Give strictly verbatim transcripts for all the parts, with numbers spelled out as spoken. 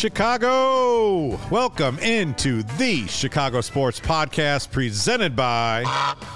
Chicago! Welcome into the Chicago Sports Podcast presented by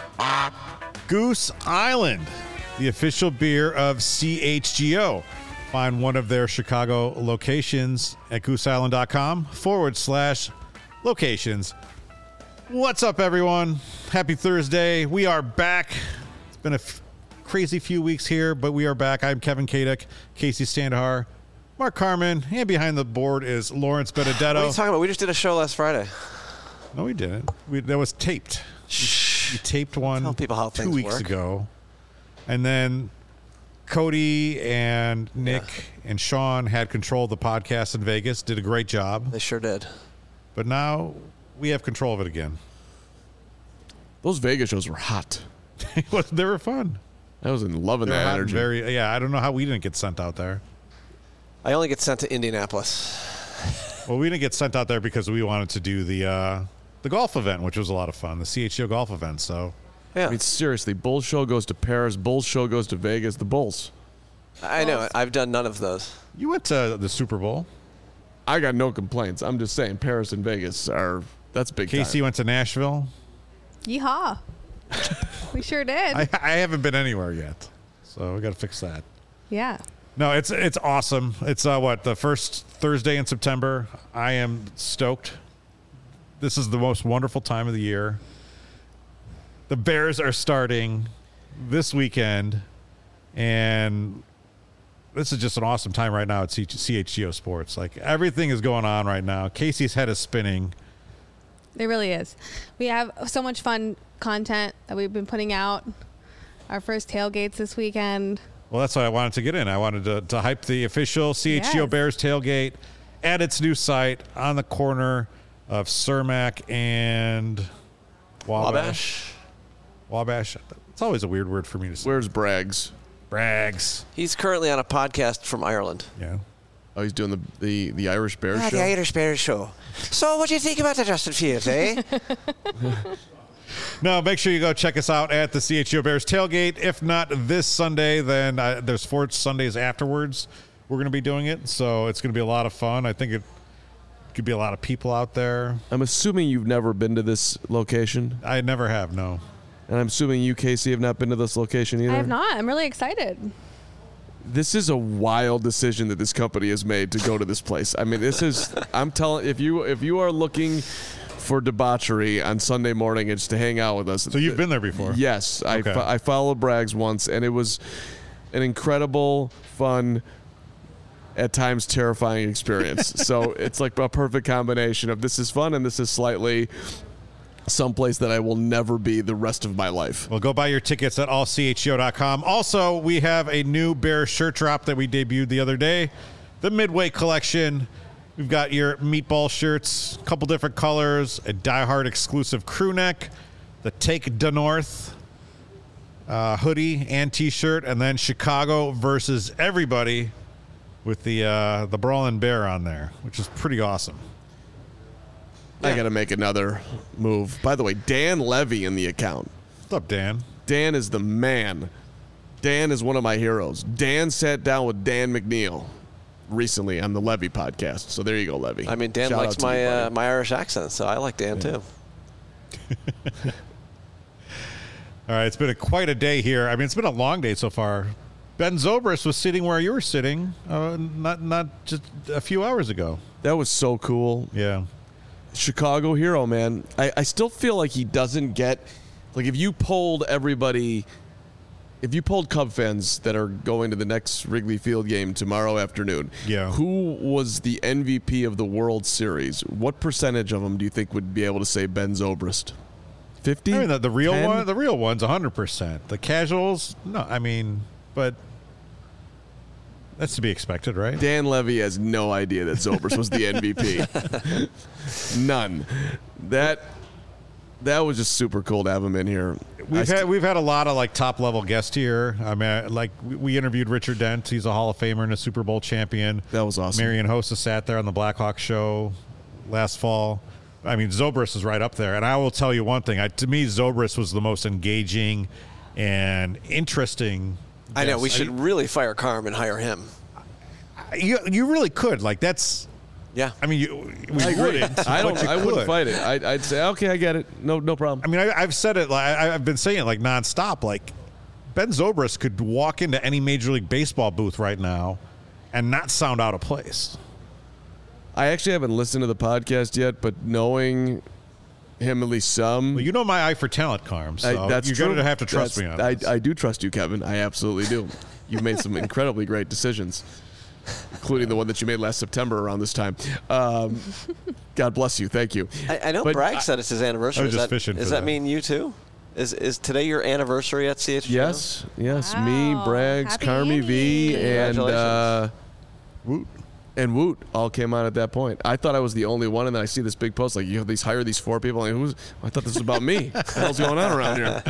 Goose Island, the official beer of C H G O. Find one of their Chicago locations at gooseisland.com forward slash locations. What's up, everyone? Happy Thursday. We are back. It's been a f- crazy few weeks here, but we are back. I'm Kevin Kadek, Casey Standahar, Mark Carman, and behind the board is Lawrence Benedetto. What are you talking about? We just did a show last Friday. No, we didn't. We, that was taped. Shh. We, we taped one Tell people how two things weeks work. ago. And then Cody and Nick Yeah. and Sean had control of the podcast in Vegas, did a great job. They sure did. But now we have control of it again. Those Vegas shows were hot. They were fun. I was in loving They were that hot and energy. very, yeah, I don't know how we didn't get sent out there. I only get sent to Indianapolis. Well, we didn't get sent out there because we wanted to do the uh, the golf event, which was a lot of fun, the C H G O golf event. So, Yeah, I mean, seriously, Bulls show goes to Paris. Bulls show goes to Vegas. The Bulls. I know. it. I've done none of those. you went to the Super Bowl. I got no complaints. I'm just saying, Paris and Vegas are that's big Casey time. went to Nashville. Yeehaw. We sure did. I, I haven't been anywhere yet, so we got to fix that. yeah. No, it's it's awesome. It's uh, what the first Thursday in September. I am stoked. This is the most wonderful time of the year. The Bears are starting this weekend, and this is just an awesome time right now at C H G O Sports. Like, everything is going on right now. Casey's head is spinning. It really is. We have so much fun content that we've been putting out. Our first tailgates this weekend. Well, that's what I wanted to get in. I wanted to, to hype the official C H G O Yes. Bears tailgate at its new site on the corner of Cermak and Wabash. Wabash. Wabash. It's always a weird word for me to say. Where's Braggs? Brags. He's currently on a podcast from Ireland. Yeah. Oh, he's doing the the, the Irish Bears Ah, show. the Irish Bears show. So, what do you think about the Justin Fields, eh? No, make sure you go check us out at the C H G O Bears tailgate. If not this Sunday, then uh, there's four Sundays afterwards. We're going to be doing it, so it's going to be a lot of fun. I think it could be a lot of people out there. I'm assuming you've never been to this location, I never have, no. and I'm assuming you, Casey, have not been to this location either. I have not. I'm really excited. This is a wild decision that this company has made to go to this place. I mean, this is. I'm telling if you if you are looking for debauchery on Sunday morning, it's to hang out with us. So you've been there before? Yes, I Okay. fo- I followed Braggs once, and it was an incredible, fun, at times terrifying experience. So it's like a perfect combination of this is fun and this is slightly someplace that I will never be the rest of my life. Well, go buy your tickets at all c h g o dot com. Also, we have a new Bear shirt drop that we debuted the other day, the Midway collection. We've got your meatball shirts, a couple different colors, a Die Hard exclusive crew neck, the Take the North uh, hoodie and T-shirt, and then Chicago versus everybody with the uh, the Brawling Bear on there, which is pretty awesome. I got to make another move. By the way, Dan Levy in the account. What's up, Dan? Dan is the man. Dan is one of my heroes. Dan sat down with Dan McNeil recently on the Levy podcast. So there you go, Levy. I mean, Dan Shout likes out to my you, buddy. uh, my Irish accent, so I like Dan too. All right, it's been a, quite a day here. I mean, it's been a long day so far. Ben Zobrist was sitting where you were sitting, uh, not not just a few hours ago. That was so cool. Yeah. Chicago hero, man. I, I still feel like he doesn't get, like if you polled everybody, if you polled Cub fans that are going to the next Wrigley Field game tomorrow afternoon, Yeah. who was the M V P of the World Series? What percentage of them do you think would be able to say Ben Zobrist? fifty? I mean, the, the real ten? one, the real one's one hundred percent. The casuals, no, I mean, but that's to be expected, right? Dan Levy has no idea that Zobrist was the M V P. None. That that was just super cool to have him in here. We've I st- had we've had a lot of like top level guests here. I mean, like we, we interviewed Richard Dent. He's a Hall of Famer and a Super Bowl champion. That was awesome. Marion Hossa sat there on the Blackhawk show last fall. I mean, Zobrist is right up there. And I will tell you one thing. I, to me, Zobrist was the most engaging and interesting. I know guest. we should really fire Carm and hire him. You you really could. Like, that's Yeah. I mean, you, we I agree. wouldn't. I don't. but you I wouldn't could. fight it. I'd, I'd say, okay, I get it. No, no problem. I mean, I, I've said it. Like I, I've been saying it like nonstop. Like Ben Zobrist could walk into any Major League Baseball booth right now and not sound out of place. I actually haven't listened to the podcast yet, but knowing him at least some, Well, you know my eye for talent, Carm. So I, that's you're true. going to have to trust That's- me on I, this. I do trust you, Kevin. I absolutely do. You've made some incredibly great decisions, including the one that you made last September around this time. Um, God bless you. Thank you. I, I know But Bragg I- said it's his anniversary. I was Does just that, fishing Does for that that. mean you too? Is is today your anniversary at C H G O? Yes, yes. Me, Wow. Braggs, Happy Carmi V, Annie. and uh, Congratulations. Woot. and Woot all came on at that point. I thought I was the only one, and then I see this big post like, you have these hire these four people. Like, who's? I thought this was about me. What the hell's going on around here?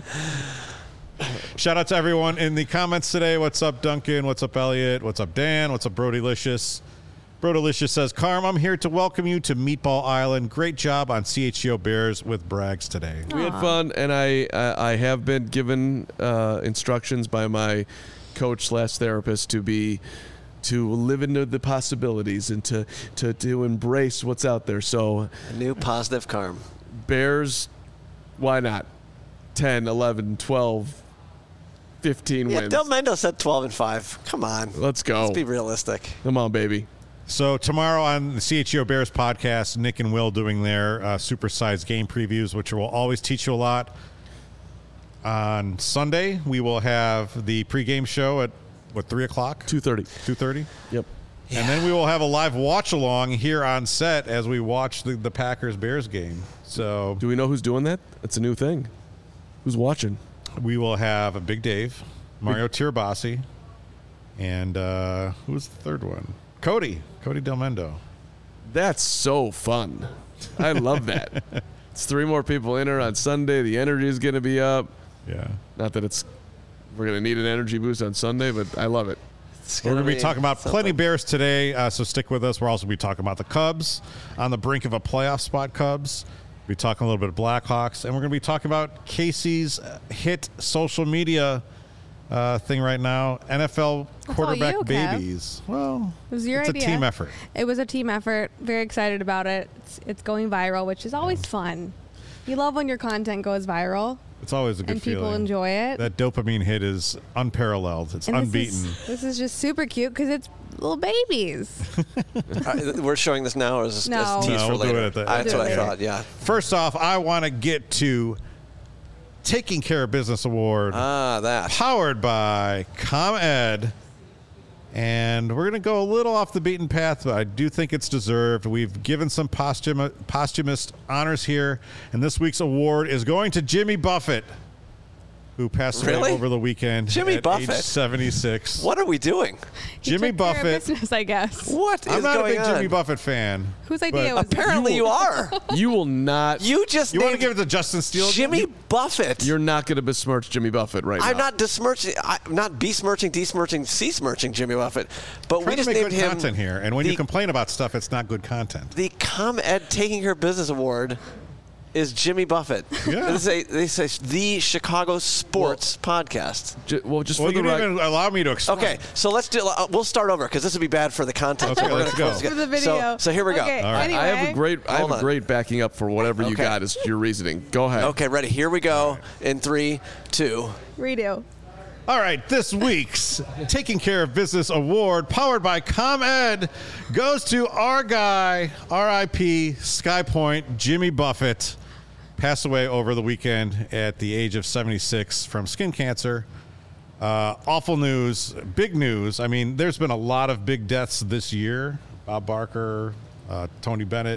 Shout out to everyone in the comments today. What's up, Duncan? What's up, Elliot? What's up, Dan? What's up, Brodylicious? Brodylicious says, Carm, I'm here to welcome you to Meatball Island. Great job on C H G O Bears with Braggs today. We had fun, and I I, I have been given uh, instructions by my coach slash therapist to be to live into the possibilities and to, to to embrace what's out there. So A new positive Carm. Bears, why not? ten, eleven, twelve, fifteen Yeah, wins. Del Mendo said twelve and five. Come on. Let's go. Let's be realistic. Come on, baby. So tomorrow on the C H G O Bears podcast, Nick and Will doing their uh, supersized game previews, which will always teach you a lot. On Sunday, we will have the pregame show at, what, three o'clock? two thirty. two thirty? Yep. And then we will have a live watch-along here on set as we watch the, the Packers-Bears game. So Do we know who's doing that? It's a new thing. Who's watching? we will have a Big Dave, Mario Tirabassi, and uh, who's the third one? Cody. Cody Del Mendo. That's so fun. I love that. It's three more people in here on Sunday. The energy is going to be up. Yeah. Not that it's we're going to need an energy boost on Sunday, but I love it. It's We're going to be be talking about something. plenty Bears today, uh, so stick with us. We're also going to be talking about the Cubs on the brink of a playoff spot. Cubs. We'll be talking a little bit of Blackhawks, and we're going to be talking about Casey's uh, hit social media uh, thing right now. N F L all quarterback you, Kev. babies. Well, It was your it's idea. a team effort. It was a team effort. Very excited about it. It's, it's going viral, which is always fun. You love when your content goes viral It's always a good and people feeling. enjoy it. That dopamine hit is unparalleled. It's and unbeaten. This is, this is just super cute because it's little babies. Uh, we're showing this now, or is this No. is tease No, for we'll do later? it at the- Uh, That's We'll what do I it later. thought. Yeah. First off, I want to get to Taking Care of Business Award. Ah, that. Powered by ComEd. And we're going to go a little off the beaten path, but I do think it's deserved. We've given some posthum- posthumous honors here, and this week's award is going to Jimmy Buffett, who passed Really? away over the weekend Jimmy at Buffett? age seventy-six. What are we doing? He Jimmy took care of Buffett. business, I guess. What is I'm not a going big on? Jimmy Buffett fan. Whose idea but was it? Apparently, you are. You will not. You just You want to named give it to Justin Steele? Jimmy Buffett. You're not going to besmirch Jimmy Buffett right I'm now. not besmirching, I'm not besmirching, desmirching, c-smirching Jimmy Buffett, but Trying we to just make named good him content here, and when the, you complain about stuff, it's not good content. the ComEd Taking Her Business Award is Jimmy Buffett. Yeah. This is a, they say the Chicago Sports Podcast. Ju- well, just Well, for you the didn't record. even allow me to explain. Okay, so let's do. Uh, we'll start over because this would be bad for the content. Okay, So we're let's gonna go. close For the together. video. So, so here we go. Okay, All right. anyway. I have a great. I have Hold a on. great backing up for whatever you Okay. got as your reasoning. Go ahead. Okay, ready? Here we go. In three, two. Redo. All right, this week's Taking Care of Business Award, powered by ComEd, goes to our guy, R I P Sky Point, Jimmy Buffett. Passed away over the weekend at the age of seventy-six from skin cancer. Uh, awful news, big news. I mean, there's been a lot of big deaths this year. Bob Barker, uh, Tony Bennett.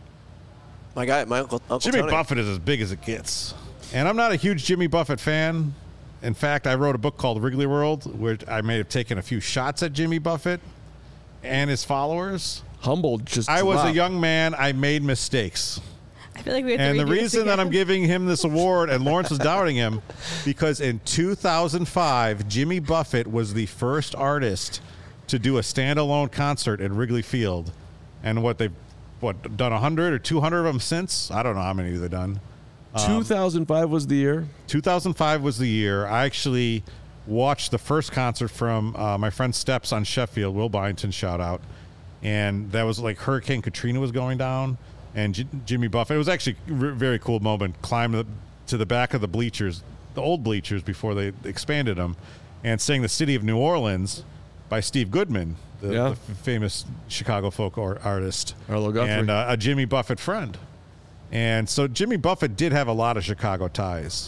My guy, my uncle, Uncle Jimmy Tony. Buffett is as big as it gets. And I'm not a huge Jimmy Buffett fan. In fact, I wrote a book called Wrigley World, where I may have taken a few shots at Jimmy Buffett and his followers. Humbled. Just. I was a dropped. young man. I made mistakes. I feel like we have And to the redo this reason that again. I'm giving him this award, and Lawrence was doubting him, because in two thousand five, Jimmy Buffett was the first artist to do a standalone concert at Wrigley Field. And what they've what done one hundred or two hundred of them since? I don't know how many they've done. two thousand five was the year. two thousand five was the year. I actually watched the first concert from uh, my friend Steps on Sheffield, Will Byington, shout out. and that was like Hurricane Katrina was going down, and J- Jimmy Buffett. It was actually a re- very cool moment. Climbed the, to the back of the bleachers, the old bleachers before they expanded them, and sang "The City of New Orleans" by Steve Goodman, the, Yeah. the f- famous Chicago folk or, artist, Arlo Guthrie. and uh, a Jimmy Buffett friend. And so Jimmy Buffett did have a lot of Chicago ties.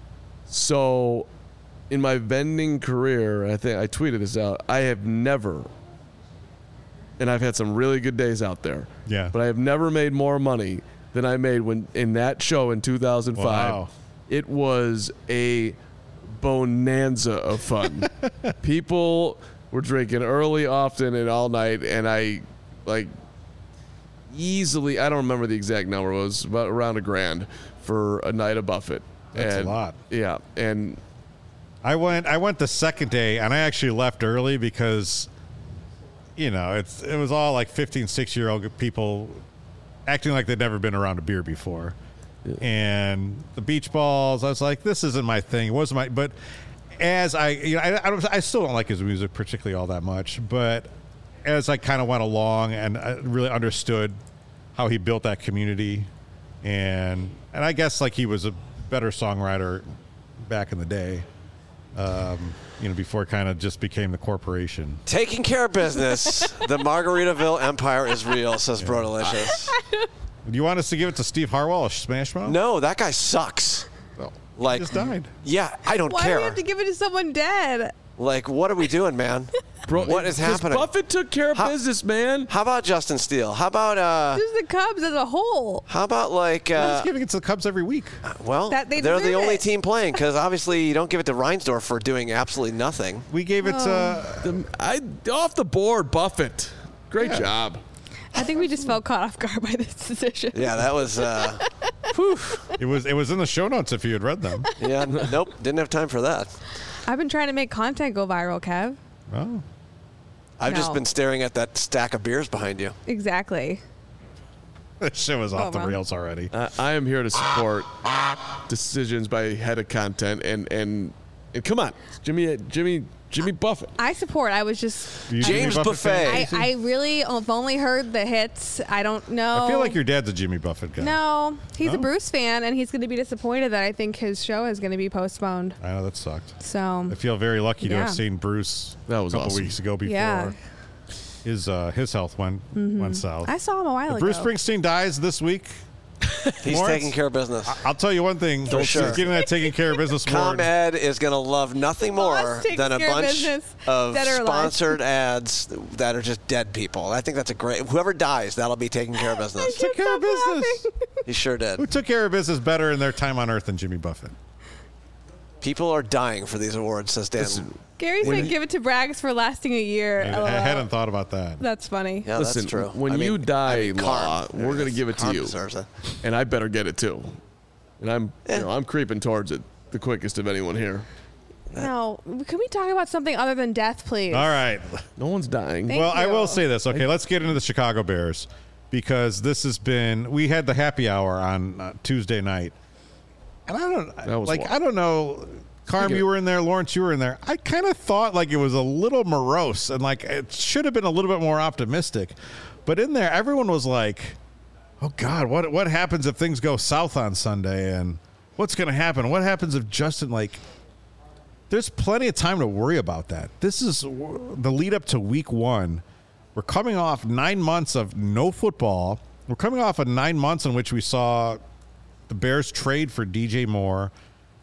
So, in my vending career, I think I tweeted this out. I have never, and I've had some really good days out there. Yeah. But I have never made more money than I made when in that show in two thousand five. Wow. It was a bonanza of fun. People were drinking early, often, and all night, and I like easily. I don't remember the exact number. It was about around a grand for a night of Buffett. That's a And- lot. Yeah, and I went I went the second day, and I actually left early because, you know, it's it was all like fifteen, sixteen-year-old people acting like they'd never been around a beer before. And the beach balls, I was like, this isn't my thing. It wasn't my, but as I, you know, I, I, don't, I still don't like his music particularly all that much, but as I kind of went along and I really understood how he built that community, and and I guess like he was a better songwriter back in the day, um, you know, before it kind of just became the corporation. Taking care of business. The Margaritaville Empire is real, says Bro Delicious. Do you want us to give it to Steve Harwell, a Smash Mouth? No, that guy sucks. Well, Like, he just died. Yeah, I don't Why care. do we have to give it to someone dead? Like, what are we doing, man? bro, What is 'cause happening? Buffett took care of How- business, man. How about Justin Steele? How about uh? Just the Cubs as a whole. How about like He's uh? giving it to the Cubs every week. Well, That they they're the deserve only it. team playing because obviously you don't give it to Reinsdorf for doing absolutely nothing. We gave it to. The- I off the board, Buffett. Great Yeah. job. I think we just felt caught off guard by this decision. Yeah, that was. uh It was it was in the show notes if you had read them. Yeah, n- nope, didn't have time for that. I've been trying to make content go viral, Kev. Oh, I've just No. been staring at that stack of beers behind you. Exactly. that shit was off Oh, the wow. rails already. I, I am here to support decisions by head of content and and and come on, Jimmy Jimmy Jimmy Buffett. I support. I was just. You a James Jimmy Buffett fan, Buffet. I, Casey? I really have only heard the hits. I don't know. I feel like your dad's a Jimmy Buffett guy. No, he's No? a Bruce fan, and he's going to be disappointed that I think his show is going to be postponed. I know that sucked. So I feel very lucky to Yeah. have seen Bruce That was a couple awesome. weeks ago before Yeah. his uh, his health went went south. I saw him a while If Bruce ago. Springsteen dies this week, He's Lawrence? taking care of business. I'll tell you one thing. For sure. He's getting that taking care of business award. ComEd is going to love nothing more Us takes than a care of bunch business, of dead or alive. sponsored ads that are just dead people. I think that's a great. Whoever dies, that'll be taking care of business. Took care of Stop business. laughing. He sure Who did. took care of business better in their time on Earth than Jimmy Buffett? People are dying for these awards, says Dan. Gary said give it to Braggs for lasting a year. I, LOL. I hadn't thought about that. That's funny. Yeah, Listen, that's true. when I you mean, die, I mean, Law, Karn- we're gonna give it to Karn you. deserves it. And I better get it too. And I'm Eh. you know, I'm creeping towards it the quickest of anyone here. No, can we talk about something other than death, please? All right. No one's dying. Thank Well, I you. will say this. Okay, let's get into the Chicago Bears because this has been. We had the happy hour on uh, Tuesday night, and I don't That was like. wild. I don't know. Carm, Speaking you of- were in there. Lawrence, you were in there. I kind of thought like it was a little morose and like it should have been a little bit more optimistic, but in there, everyone was like, "Oh God, what what happens if things go south on Sunday? And what's going to happen? What happens if Justin like?" There's plenty of time to worry about that. This is w- the lead up to week one. We're coming off nine months of no football. We're coming off of nine months in which we saw the Bears trade for D J Moore,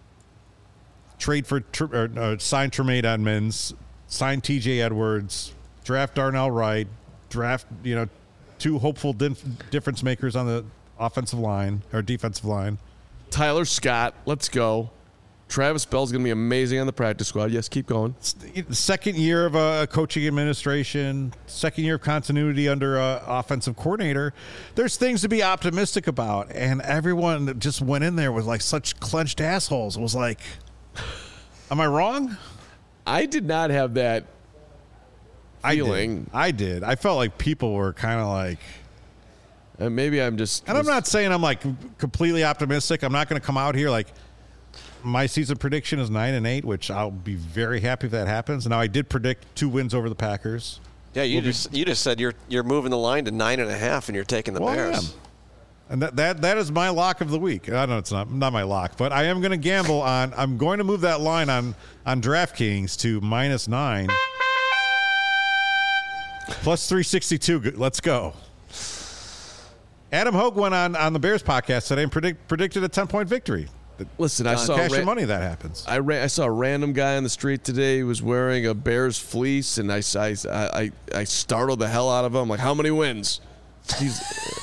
trade for tr- or, uh, sign Tremaine Edmonds, sign T J Edwards, draft Darnell Wright, draft you know two hopeful dif- difference makers on the offensive line or defensive line. Tyler Scott, let's go. Travis Bell's going to be amazing on the practice squad. Yes, keep going. Second year of a coaching administration, second year of continuity under a offensive coordinator. There's things to be optimistic about, and everyone that just went in there with like such clenched assholes. It was like, am I wrong? I did not have that I feeling. did. I did. I felt like people were kind of like, Uh, maybe I'm just. and I'm not saying I'm like completely optimistic. I'm not going to come out here like my season prediction is nine and eight, which I'll be very happy if that happens. Now I did predict two wins over the Packers. Yeah, you We'll be- just you just said you're you're moving the line to nine and a half, and you're taking the Well, I Bears. am. And that, that that is my lock of the week. I know it's not not my lock, but I am going to gamble on. I'm going to move that line on on DraftKings to minus nine, plus three sixty-two. Good- Let's go. Adam Hogue went on on the Bears podcast today and predict, predicted a ten point victory. Listen, I saw Cash ra- your money that happens. I ran, I saw a random guy on the street today who was wearing a Bears fleece, and I, I, I, I startled the hell out of him. I'm like, how many wins? He's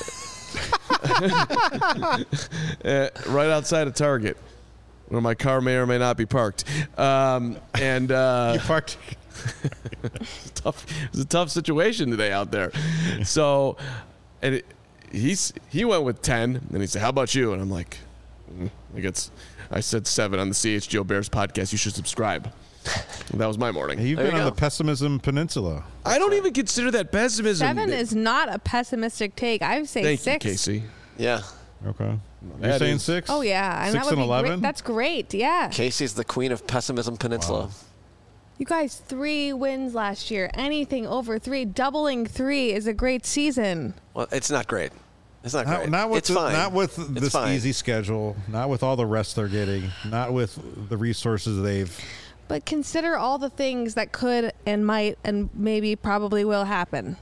uh, right outside of Target, where my car may or may not be parked. Um, and uh, You parked. it's tough. It was a tough situation today out there. So, and it, he's he went with ten, and he said, "How about you?" And I'm like, mm, I guess I said seven on the C H G O Bears podcast. You should subscribe. And that was my morning. You've There been you on go. the pessimism peninsula. I don't even consider that pessimism. Seven is not a pessimistic take. I would say Thank six. you, Casey. Yeah, Okay. You're That saying is- six? Oh yeah, and Six that would and be eleven? great. That's great. Yeah. Casey's the queen of pessimism peninsula. Wow. You guys, three wins last year. Anything over three, doubling three is a great season. Well, it's not great. It's not Not, great. not with it's the, fine. not with It's this fine. easy schedule, not with all the rest they're getting, not with the resources they've. But consider all the things that could and might and maybe probably will happen.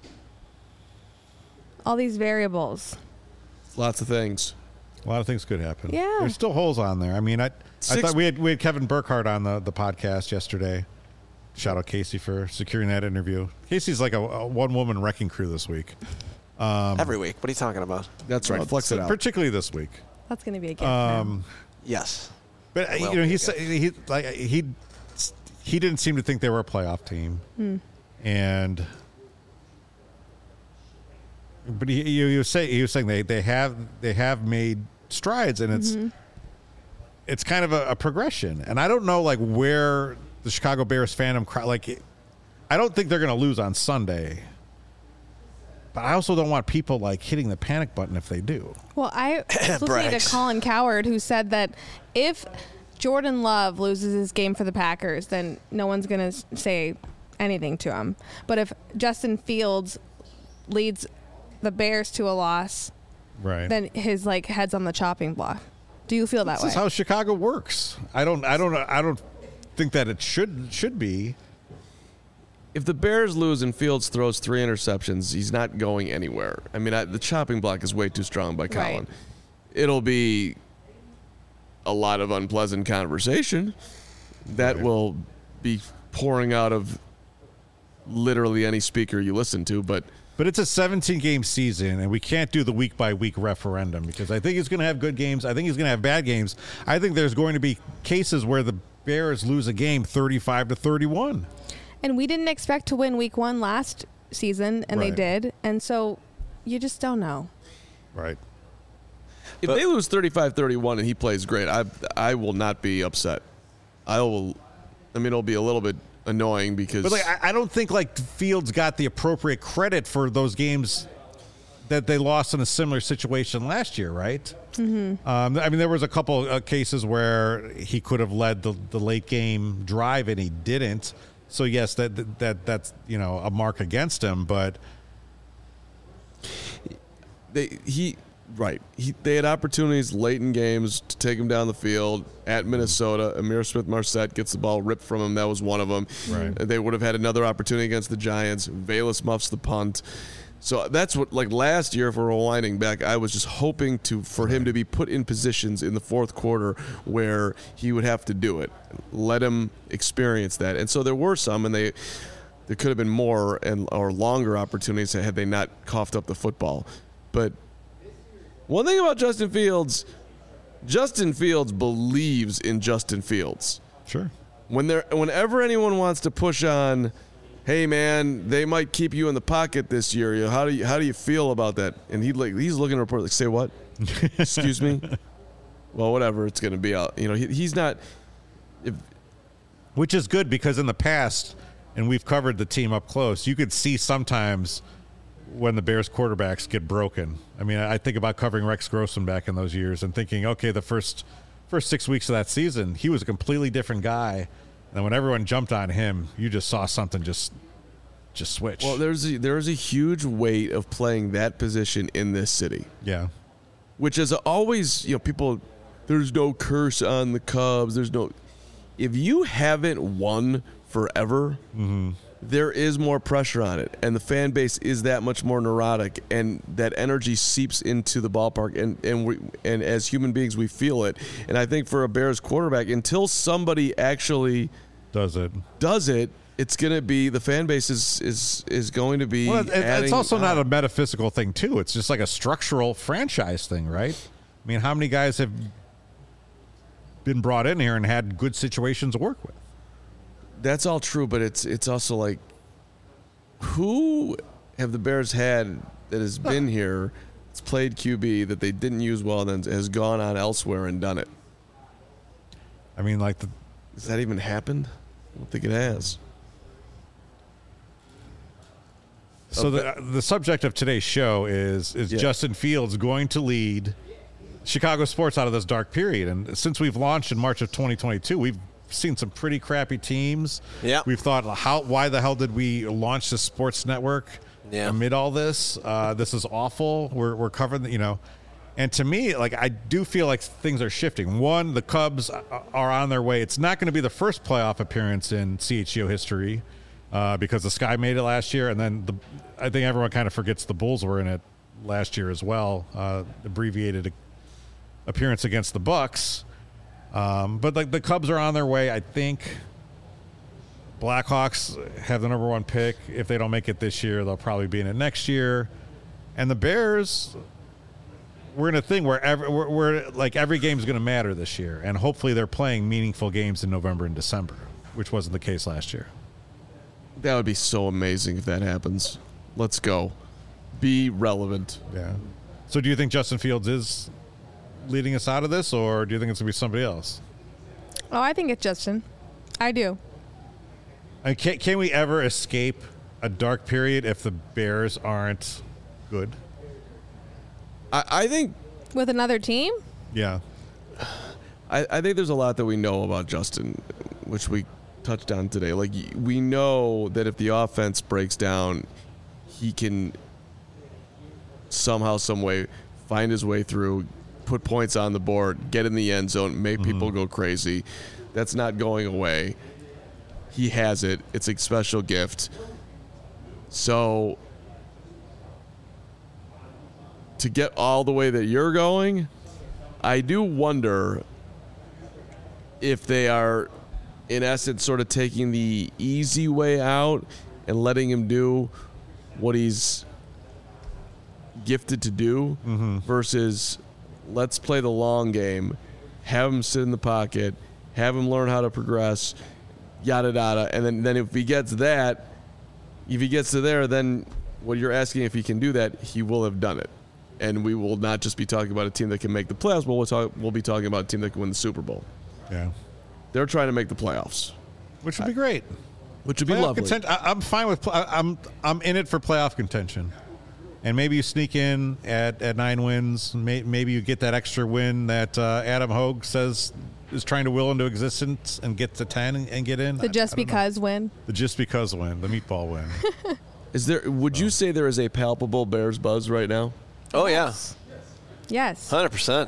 All these variables. Lots of things. A lot of things could happen. Yeah. There's still holes on there. I mean, I I Six- thought we had we had Kevin Burkhardt on the, the podcast yesterday. Shout out Casey for securing that interview. Casey's like a, a one woman wrecking crew this week. Every week. What are you talking about? That's right. Flex it out. Particularly this week. That's going to be a gift. Um, Yes. But uh, Well, you know, he okay. said he like he he didn't seem to think they were a playoff team, and but he, he, he was saying he was saying they, they have they have made strides, and it's it's kind of a, a progression. And I don't know like where the Chicago Bears fandom cry, like I don't think they're going to lose on Sunday. But I also don't want people like hitting the panic button if they do. Well, I was listening to Brags. Colin Coward, who said that if Jordan Love loses his game for the Packers, then no one's going to say anything to him. But if Justin Fields leads the Bears to a loss, Right. then his like head's on the chopping block. Do you feel that This way? is how Chicago works. I don't. I don't. I don't think that it should should be. If the Bears lose and Fields throws three interceptions, he's not going anywhere. I mean, I, the chopping block is way too strong by Colin. Right. It'll be a lot of unpleasant conversation that Right. will be pouring out of literally any speaker you listen to, but But it's a seventeen game season, and we can't do the week by week referendum because I think he's going to have good games. I think he's going to have bad games. I think there's going to be cases where the Bears lose a game thirty-five to thirty-one. And we didn't expect to win week one last season, and they Right. did. And so you just don't know. Right. if But- they lose thirty-five thirty-one and he plays great, I I will not be upset. I will. I mean, it'll be a little bit annoying because But like, I, I don't think like Fields got the appropriate credit for those games that they lost in a similar situation last year, right? Mm-hmm. Um, I mean, there was a couple uh, cases where he could have led the, the late game drive and he didn't. So yes, that that, that that's you know a mark against him, but they he right he they had opportunities late in games to take him down the field at Minnesota. Amir Smith-Marset gets the ball ripped from him. That was one of them. Right. They would have had another opportunity against the Giants. Valus muffs the punt. So that's what, like last year, if we're rewinding back, I was just hoping to for him to be put in positions in the fourth quarter where he would have to do it. Let him experience that. And so there were some, and they there could have been more and or longer opportunities had they not coughed up the football. But one thing about Justin Fields, Justin Fields believes in Justin Fields. sure. When there, whenever anyone wants to push on, hey man, they might keep you in the pocket this year. You know, how do you how do you feel about that? And he like he's looking to report like, say what? Excuse me. Well, whatever it's going to be out. You know, he, he's not. If, Which is good because in the past, and we've covered the team up close, you could see sometimes when the Bears quarterbacks get broken. I mean, I think about covering Rex Grossman back in those years and thinking, okay, the first first six weeks of that season, he was a completely different guy. And when everyone jumped on him, you just saw something just just switch. Well, there's a, there's a huge weight of playing that position in this city, yeah. which is always, you know, people, there's no curse on the Cubs. There's no, if you haven't won forever, Mm-hmm. there is more pressure on it, and the fan base is that much more neurotic, and that energy seeps into the ballpark, and and we, and as human beings we feel it. And I think for a Bears quarterback, until somebody actually Does it? does it, it's going to be the fan base is is is going to be. Well, it, adding, it's also not uh, a metaphysical thing, too. It's just like a structural franchise thing, right? I mean, how many guys have been brought in here and had good situations to work with? That's all true, but it's it's also like, who have the Bears had that has been here, that's played Q B that they didn't use well, and then has gone on elsewhere and done it? I mean, like the. Has that even happened? I don't think it has. So the the subject of today's show is is Yeah. Justin Fields going to lead Chicago sports out of this dark period? And since we've launched in March of twenty twenty-two, we've seen some pretty crappy teams. Yeah. We've thought, how why the hell did we launch this sports network Yeah. amid all this? Uh, this is awful. We're we're covering, the, you know. And to me, like, I do feel like things are shifting. One, the Cubs are on their way. It's not going to be the first playoff appearance in C H G O history uh, because the Sky made it last year. And then the, I think everyone kind of forgets the Bulls were in it last year as well, uh, abbreviated appearance against the Bucks. Um, but, like, the Cubs are on their way. I think Blackhawks have the number one pick. If they don't make it this year, they'll probably be in it next year. And the Bears, we're in a thing where every, we're, we're like every game is going to matter this year, and hopefully they're playing meaningful games in November and December, which wasn't the case last year. That would be so amazing if that happens. Let's go. Be relevant. Yeah. So do you think Justin Fields is leading us out of this, or do you think it's going to be somebody else? Oh, I think it's Justin. I do. And can, can we ever escape a dark period if the Bears aren't good? I, I think With another team? Yeah. I, I think there's a lot that we know about Justin, which we touched on today. Like, y- we know that if the offense breaks down, he can somehow, some way, find his way through, put points on the board, get in the end zone, make Mm-hmm. people go crazy. That's not going away. He has it. It's a special gift. So to get all the way that you're going, I do wonder if they are, in essence, sort of taking the easy way out and letting him do what he's gifted to do Mm-hmm. versus let's play the long game, have him sit in the pocket, have him learn how to progress, yada yada, and then, then if he gets that, if he gets to there, then what you're asking if he can do that, he will have done it. And we will not just be talking about a team that can make the playoffs, but we'll, talk, we'll be talking about a team that can win the Super Bowl. Yeah. They're trying to make the playoffs, Which would be great. which would be Playoff lovely. content- I, I'm fine with. pl- I, I'm I'm in it for playoff contention, and maybe you sneak in at, at nine wins. May, maybe you get that extra win that uh, Adam Hogue says is trying to will into existence and get to ten and, and get in. The I- just I don't know. because win? The just because win, the meatball win. Is there? Would you say there is a palpable Bears buzz right now? Oh, yeah. Yes. one hundred percent.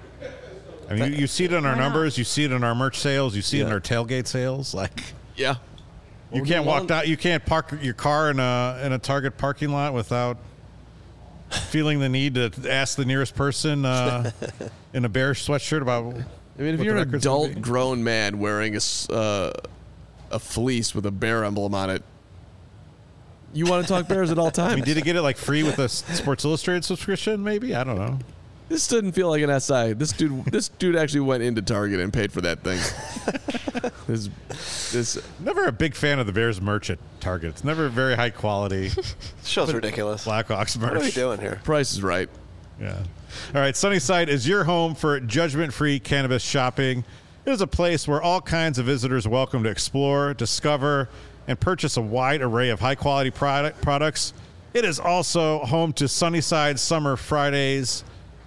I mean, you, you see it in our Why not? numbers, you see it in our merch sales, you see it in Yeah. our tailgate sales. Like Yeah. you can't walk down, you can't park your car in a in a Target parking lot without feeling the need to ask the nearest person uh, in a Bears sweatshirt about. I mean, if what you're the an records would adult be. grown man wearing a, s- uh, a fleece with a bear emblem on it, you want to talk Bears at all times. I mean, did he get it like free with a S- Sports Illustrated subscription? Maybe, I don't know. This didn't feel like an S I. This dude, this dude actually went into Target and paid for that thing. this, this, Never a big fan of the Bears merch at Target. It's never very high quality This show's ridiculous. Blackhawks merch. What are we doing here? Price is right. Yeah. All right. Sunnyside is your home for judgment-free cannabis shopping. It is a place where all kinds of visitors are welcome to explore, discover, and purchase a wide array of high-quality product products. It is also home to Sunnyside Summer Fridays.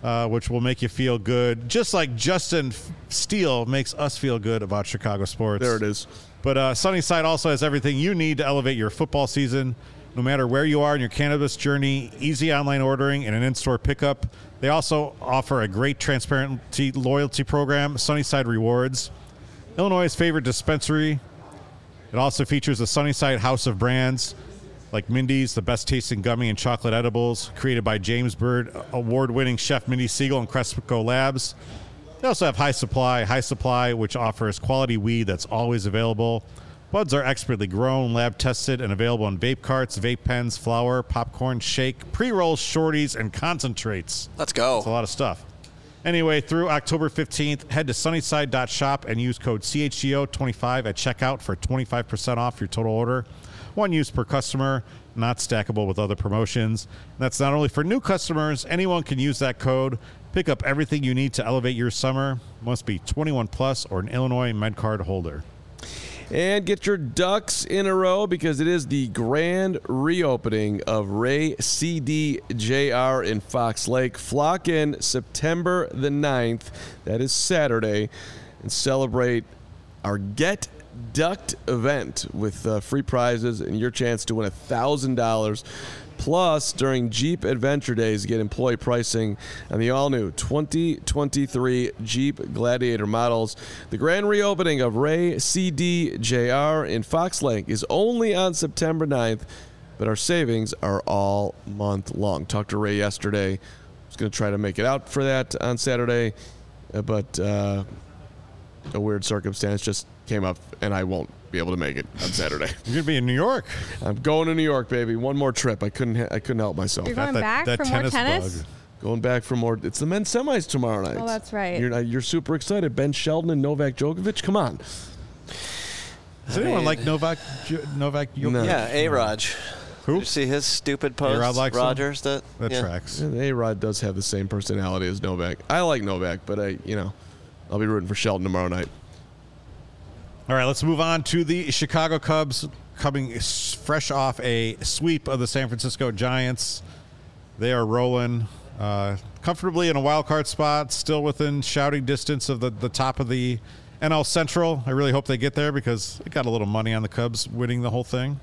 uh, which will make you feel good, just like Justin Steele makes us feel good about Chicago sports. There it is. But uh, Sunnyside also has everything you need to elevate your football season. No matter where you are in your cannabis journey, easy online ordering and an in-store pickup. They also offer a great transparency loyalty program, Sunnyside Rewards. Illinois' favorite dispensary. It also features the Sunnyside House of Brands, like Mindy's, the best tasting gummy and chocolate edibles, created by James Bird, award-winning chef Mindy Siegel and Cresco Labs. They also have High Supply, High Supply, which offers quality weed that's always available. Buds are expertly grown, lab tested, and available in vape carts, vape pens, flour, popcorn, shake, pre-rolls, shorties, and concentrates. Let's go. That's a lot of stuff. Anyway, through October fifteenth, head to sunnyside dot shop and use code C H G O twenty-five at checkout for twenty-five percent off your total order. One use per customer, not stackable with other promotions. That's not only for new customers. Anyone can use that code. Pick up everything you need to elevate your summer. Must be twenty-one plus or an Illinois MedCard holder. And get your ducks in a row because it is the grand reopening of Ray C D J R in Fox Lake. Flock in September the ninth, that is Saturday, and celebrate our Get Ducked event with uh, free prizes and your chance to win one thousand dollars. Plus, during Jeep Adventure Days, get employee pricing on the all-new twenty twenty-three Jeep Gladiator models. The grand reopening of Ray C D J R in Fox Lake is only on September ninth, but our savings are all month long. Talked to Ray yesterday. I was going to try to make it out for that on Saturday, but uh, a weird circumstance just came up, and I won't be able to make it on Saturday. You're gonna be in New York. I'm going to New York, baby. One more trip. I couldn't. Ha- I couldn't help myself. You're going that, back that for more tennis tennis? bug. Going back for more. It's the men's semis tomorrow night. Oh, that's right. You're not- you're super excited. Ben Sheldon and Novak Djokovic. Come on. Does anyone mean- like Novak? Jo- Novak? Djokovic? No. Yeah, A-Raj. Who? Did you see his stupid post? A-Rod likes him? Rogers. That, That yeah. tracks. A Rod does have the same personality as Novak. I like Novak, but I, you know, I'll be rooting for Sheldon tomorrow night. All right, let's move on to the Chicago Cubs, coming s- fresh off a sweep of the San Francisco Giants. They are rolling uh, comfortably in a wild card spot, still within shouting distance of the, the top of the N L Central. I really hope they get there because they got a little money on the Cubs winning the whole thing.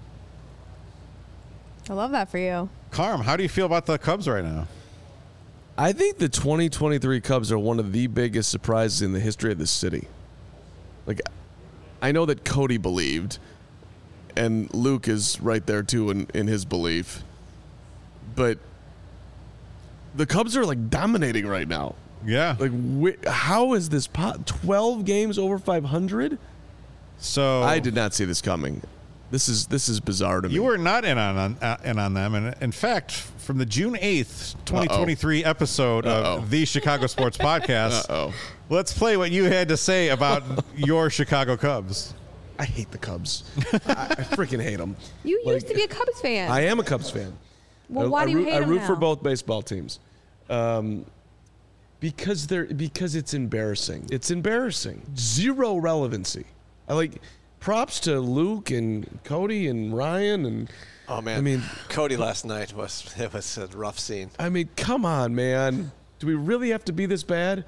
I love that for you. Carm, how do you feel about the Cubs right now? I think the twenty twenty-three Cubs are one of the biggest surprises in the history of the city. Like, I know that Cody believed, and Luke is right there too in, in his belief, but the Cubs are like dominating right now. Yeah. Like, wh- how is this pot? twelve games over five hundred? So I did not see this coming. This is this is bizarre to me. You were not in on, on uh, in on them, and in fact, from the June eighth, twenty twenty-three Uh-oh. episode Uh-oh. of the Chicago Sports Podcast, Uh-oh. let's play what you had to say about your Chicago Cubs. I hate the Cubs. I, I freaking hate them. You Like, used to be a Cubs fan. I am a Cubs fan. well, I, why I do you root, hate I them root now? for both baseball teams. Um, because they're because it's embarrassing. It's embarrassing. Zero relevancy. I like props to Luke and Cody and Ryan and Oh man, I mean, Cody last night was it was a rough scene. I mean, come on, man. Do we really have to be this bad?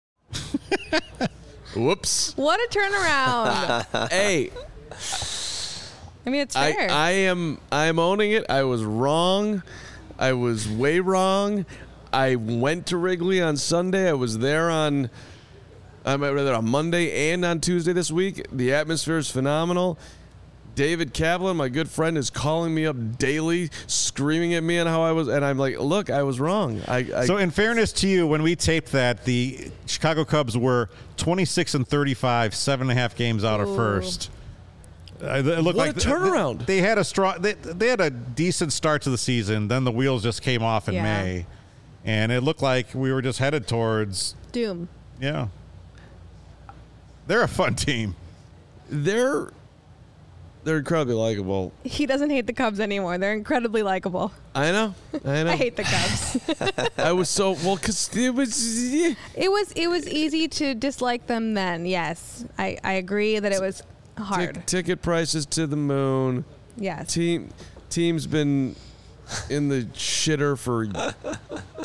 Whoops. What a turnaround. Hey, I mean, it's I, fair. I am I am owning it. I was wrong. I was way wrong. I went to Wrigley on Sunday. I was there on I'm rather on Monday and on Tuesday this week. The atmosphere is phenomenal. David Kaplan, my good friend, is calling me up daily, screaming at me on how I was, and I'm like, look, I was wrong. I, I So, in fairness to you, when we taped that, the Chicago Cubs were twenty-six and thirty-five, seven and a half games out of Ooh. first. Uh, it looked What like a turnaround. They, they had a strong. They, they had a decent start to the season. Then the wheels just came off in Yeah. May, and it looked like we were just headed towards. Doom. Yeah, they're a fun team. they're they're incredibly likable. He doesn't hate the Cubs anymore. They're incredibly likable. I know. I know. I hate the Cubs. I was so well because it was. Yeah. It was it was easy to dislike them then. Yes, I, I agree that it was hard. Tic- ticket prices to the moon. Yes. Team team's been in the shitter for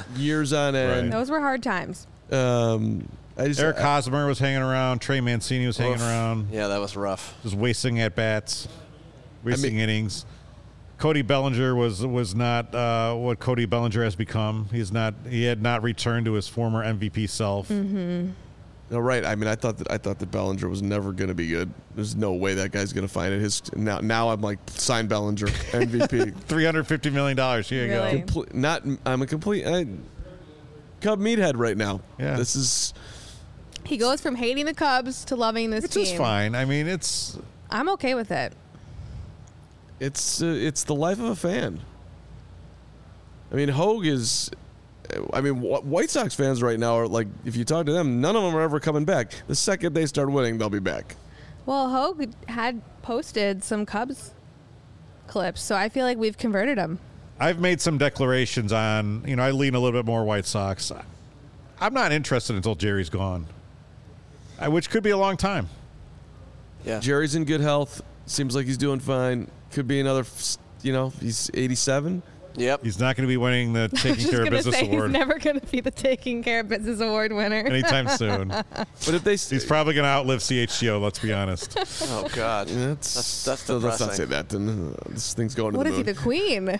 years on end. Those were hard times. Um, I just Eric I, Hosmer was hanging around. Trey Mancini was hanging Oof. around. Yeah, that was rough. Just wasting at bats, wasting I mean- innings. Cody Bellinger was was not uh, what Cody Bellinger has become. He's not. He had not returned to his former M V P self. Mm-hmm. No, right. I mean, I thought that I thought that Bellinger was never going to be good. There's no way that guy's going to find it. His now, now I'm like, sign Bellinger, M V P. Three hundred fifty million dollars. Here you Really? go. Comple- not. I'm a complete I, Cub meathead right now. Yeah. This is. He goes from hating the Cubs to loving this Which team. is fine. I mean, it's I'm okay with it. It's uh, it's the life of a fan. I mean, Hogue is. I mean, Wh- White Sox fans right now are like, if you talk to them, none of them are ever coming back. The second they start winning, they'll be back. Well, Hogue had posted some Cubs clips, so I feel like we've converted him. I've made some declarations on, you know, I lean a little bit more White Sox. I'm not interested until Jerry's gone, I, which could be a long time. Yeah. Jerry's in good health. Seems like he's doing fine. Could be another, you know, he's eighty-seven. Yep. He's not going to be winning the I was Taking just Care of gonna Business say Award he's never going to be the Taking Care of Business Award winner. anytime soon. But if they, He's probably going to outlive C H G O, let's be honest. Oh God. that's That's- that's so let's not depressing. say that. Then uh, this thing's going to What the is he, moon. the Queen?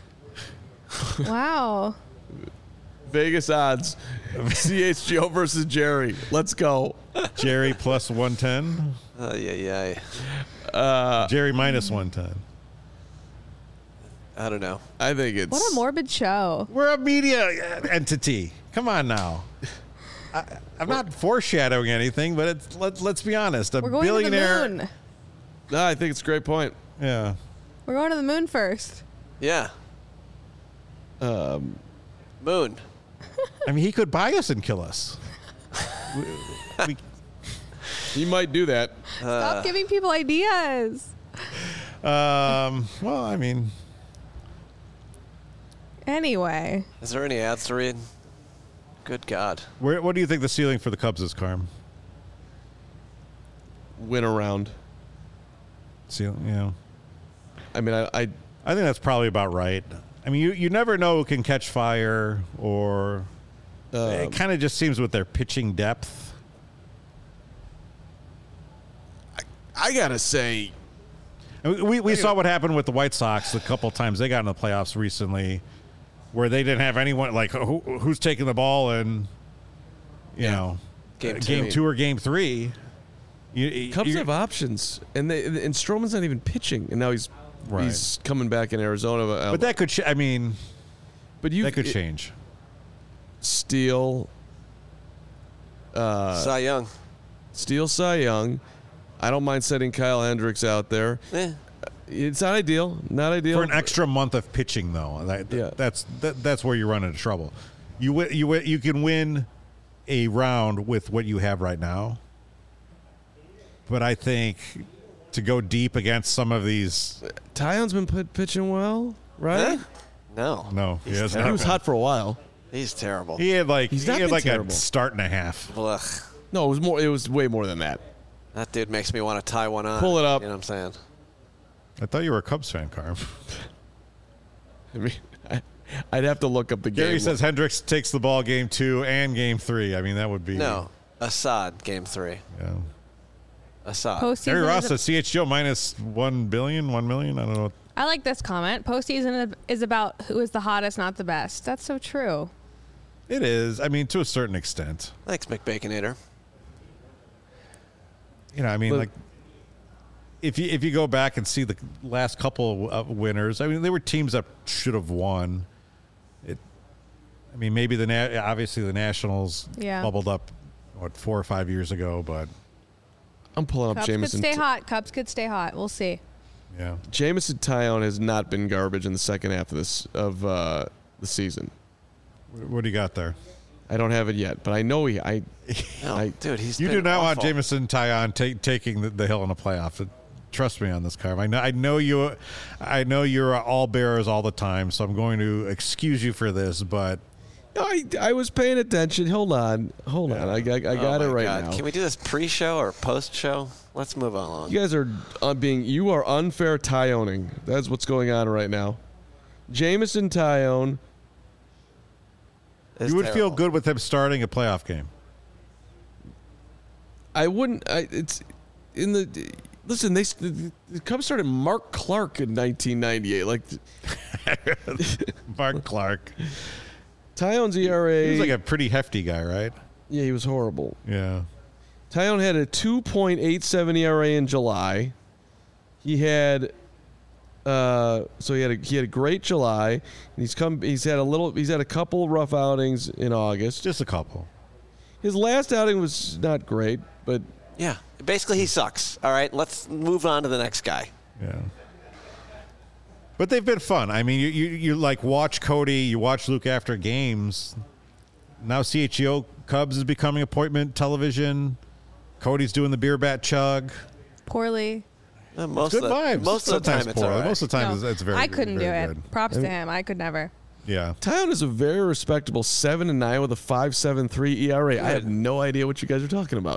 Wow. Vegas odds: C H G O versus Jerry. Let's go. Jerry plus one ten. Uh, yeah, yeah. Uh, Jerry minus one ten. I don't know. I think it's What a morbid show. We're a media entity. Come on now. I, I'm not foreshadowing anything, but it's, let, let's be honest. A We're going billionaire. to the moon. No, I think it's a great point. Yeah. We're going to the moon first. Yeah. Um, Moon. I mean, he could buy us and kill us. we, we, he might do that. Stop giving people ideas. um, well, I mean, Anyway, Is there any ads to read? Good God. where, what do you think the ceiling for the Cubs is, Carm? Win around. Ceiling, you know. I mean, I, I I think that's probably about right. I mean, you, you never know who can catch fire, or um, it kind of just seems with their pitching depth. I gotta say, I mean, we we saw what happened with the White Sox a couple times they got in the playoffs recently, where they didn't have anyone like who, who's taking the ball in, you know, Game uh, two. game two or game three. You, you- Cubs you- have options, and they and Stroman's not even pitching, and now he's Right. he's coming back in Arizona. Uh, but that could. Ch- I mean, but you that could change. Steele, uh, Cy Young. Steele, Cy Young. I don't mind setting Kyle Hendricks out there. Eh. It's not ideal. Not ideal. For an extra month of pitching, though, that, Yeah. that's that, that's where you run into trouble. You wi- you wi- you can win a round with what you have right now, but I think to go deep against some of these, Tyon's been put, pitching well, right? Huh? No. no, he, has He not was been. hot for a while. He's terrible. He had like He's he not had been like terrible. a start and a half. Ugh. No, it was more. It was way more than that. That dude makes me want to tie one on. Pull it up. You know what I'm saying? I thought you were a Cubs fan, Carm. I mean, I, I'd have to look up the game. Gary says Hendricks takes the ball game two and game three. I mean, that would be No. Assad, game three. Yeah. Assad. postseason. Gary Ross is a- says C H G O minus one billion, one million. I don't know. I like this comment. Postseason is about who is the hottest, not the best. That's so true. It is. I mean, to a certain extent. Thanks, McBaconator. You know, I mean, But- like if you if you go back and see the last couple of winners, I mean, they were teams that should have won. It. I mean, maybe the Na- obviously the Nationals Yeah. bubbled up what four or five years ago, but I'm pulling up Cubs could Jameson. stay hot. Cubs could stay hot. We'll see. yeah. Jameson Tyone has not been garbage in the second half of this of uh, the season. What do you got there? I don't have it yet, but I know he. I. No, I dude, he's You been do not want awful. Jameson Tyon ta- taking the, the hill in the playoff. Trust me on this, Carm. I know. I know you. I know you're all bearers all the time, so I'm going to excuse you for this. But No, I, I was paying attention. Hold on, hold on. I, I, I got Oh it my right God. now. Can we do this pre-show or post-show? Let's move on. You guys are uh, being. You are unfair Tyoning. That's what's going on right now. Jameson Tyone It's you would terrible. feel good with him starting a playoff game. I wouldn't. I, it's in the. Listen, they the, the Cubs started Mark Clark in nineteen ninety-eight. Like Mark Clark. Tyone's E R A. He was like a pretty hefty guy, right? Yeah, he was horrible. Yeah. Tyone had a two point eight seven E R A in July. He had. Uh, so he had a, he had a great July, and he's come. He's had a little. He's had a couple rough outings in August. Just a couple. His last outing was not great, but Yeah. Basically, he sucks. All right, let's move on to the next guy. Yeah. But they've been fun. I mean, you, you you like watch Cody, you watch Luke after games. Now C H G O Cubs is becoming appointment television. Cody's doing the beer bat chug. Poorly. Uh, most Good of the, vibes. Most of the Sometimes time, it's poorly. all right. Most of the time, No, it's, it's very I couldn't do very it. good. Props to him. I could never. Yeah. Tyone is a very respectable seven and nine with a five seven three E R A. I had no idea what you guys were talking about.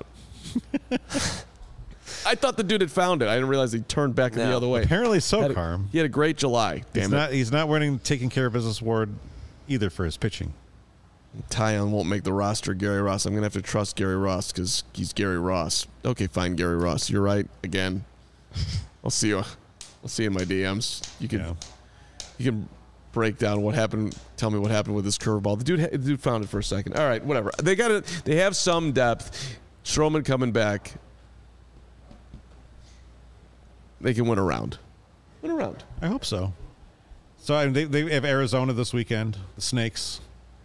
I thought the dude had found it. I didn't realize he turned back the No. other way. Apparently so, Had a- Carm. He had a great July. He's Damn it. not, he's not winning taking care of business award either for his pitching. Tyone won't make the roster, Gary Ross. I'm going to have to trust Gary Ross because he's Gary Ross. Okay, fine, Gary Ross. You're right again. I'll see you. I'll see you in my D Ms. You can Yeah. you can break down what happened. Tell me what happened with this curveball. The dude, the dude found it for a second. All right, whatever. They got it. They have some depth. Stroman coming back. They can win a round. Win a round. I hope so. So I mean, they, they have Arizona this weekend, the Snakes.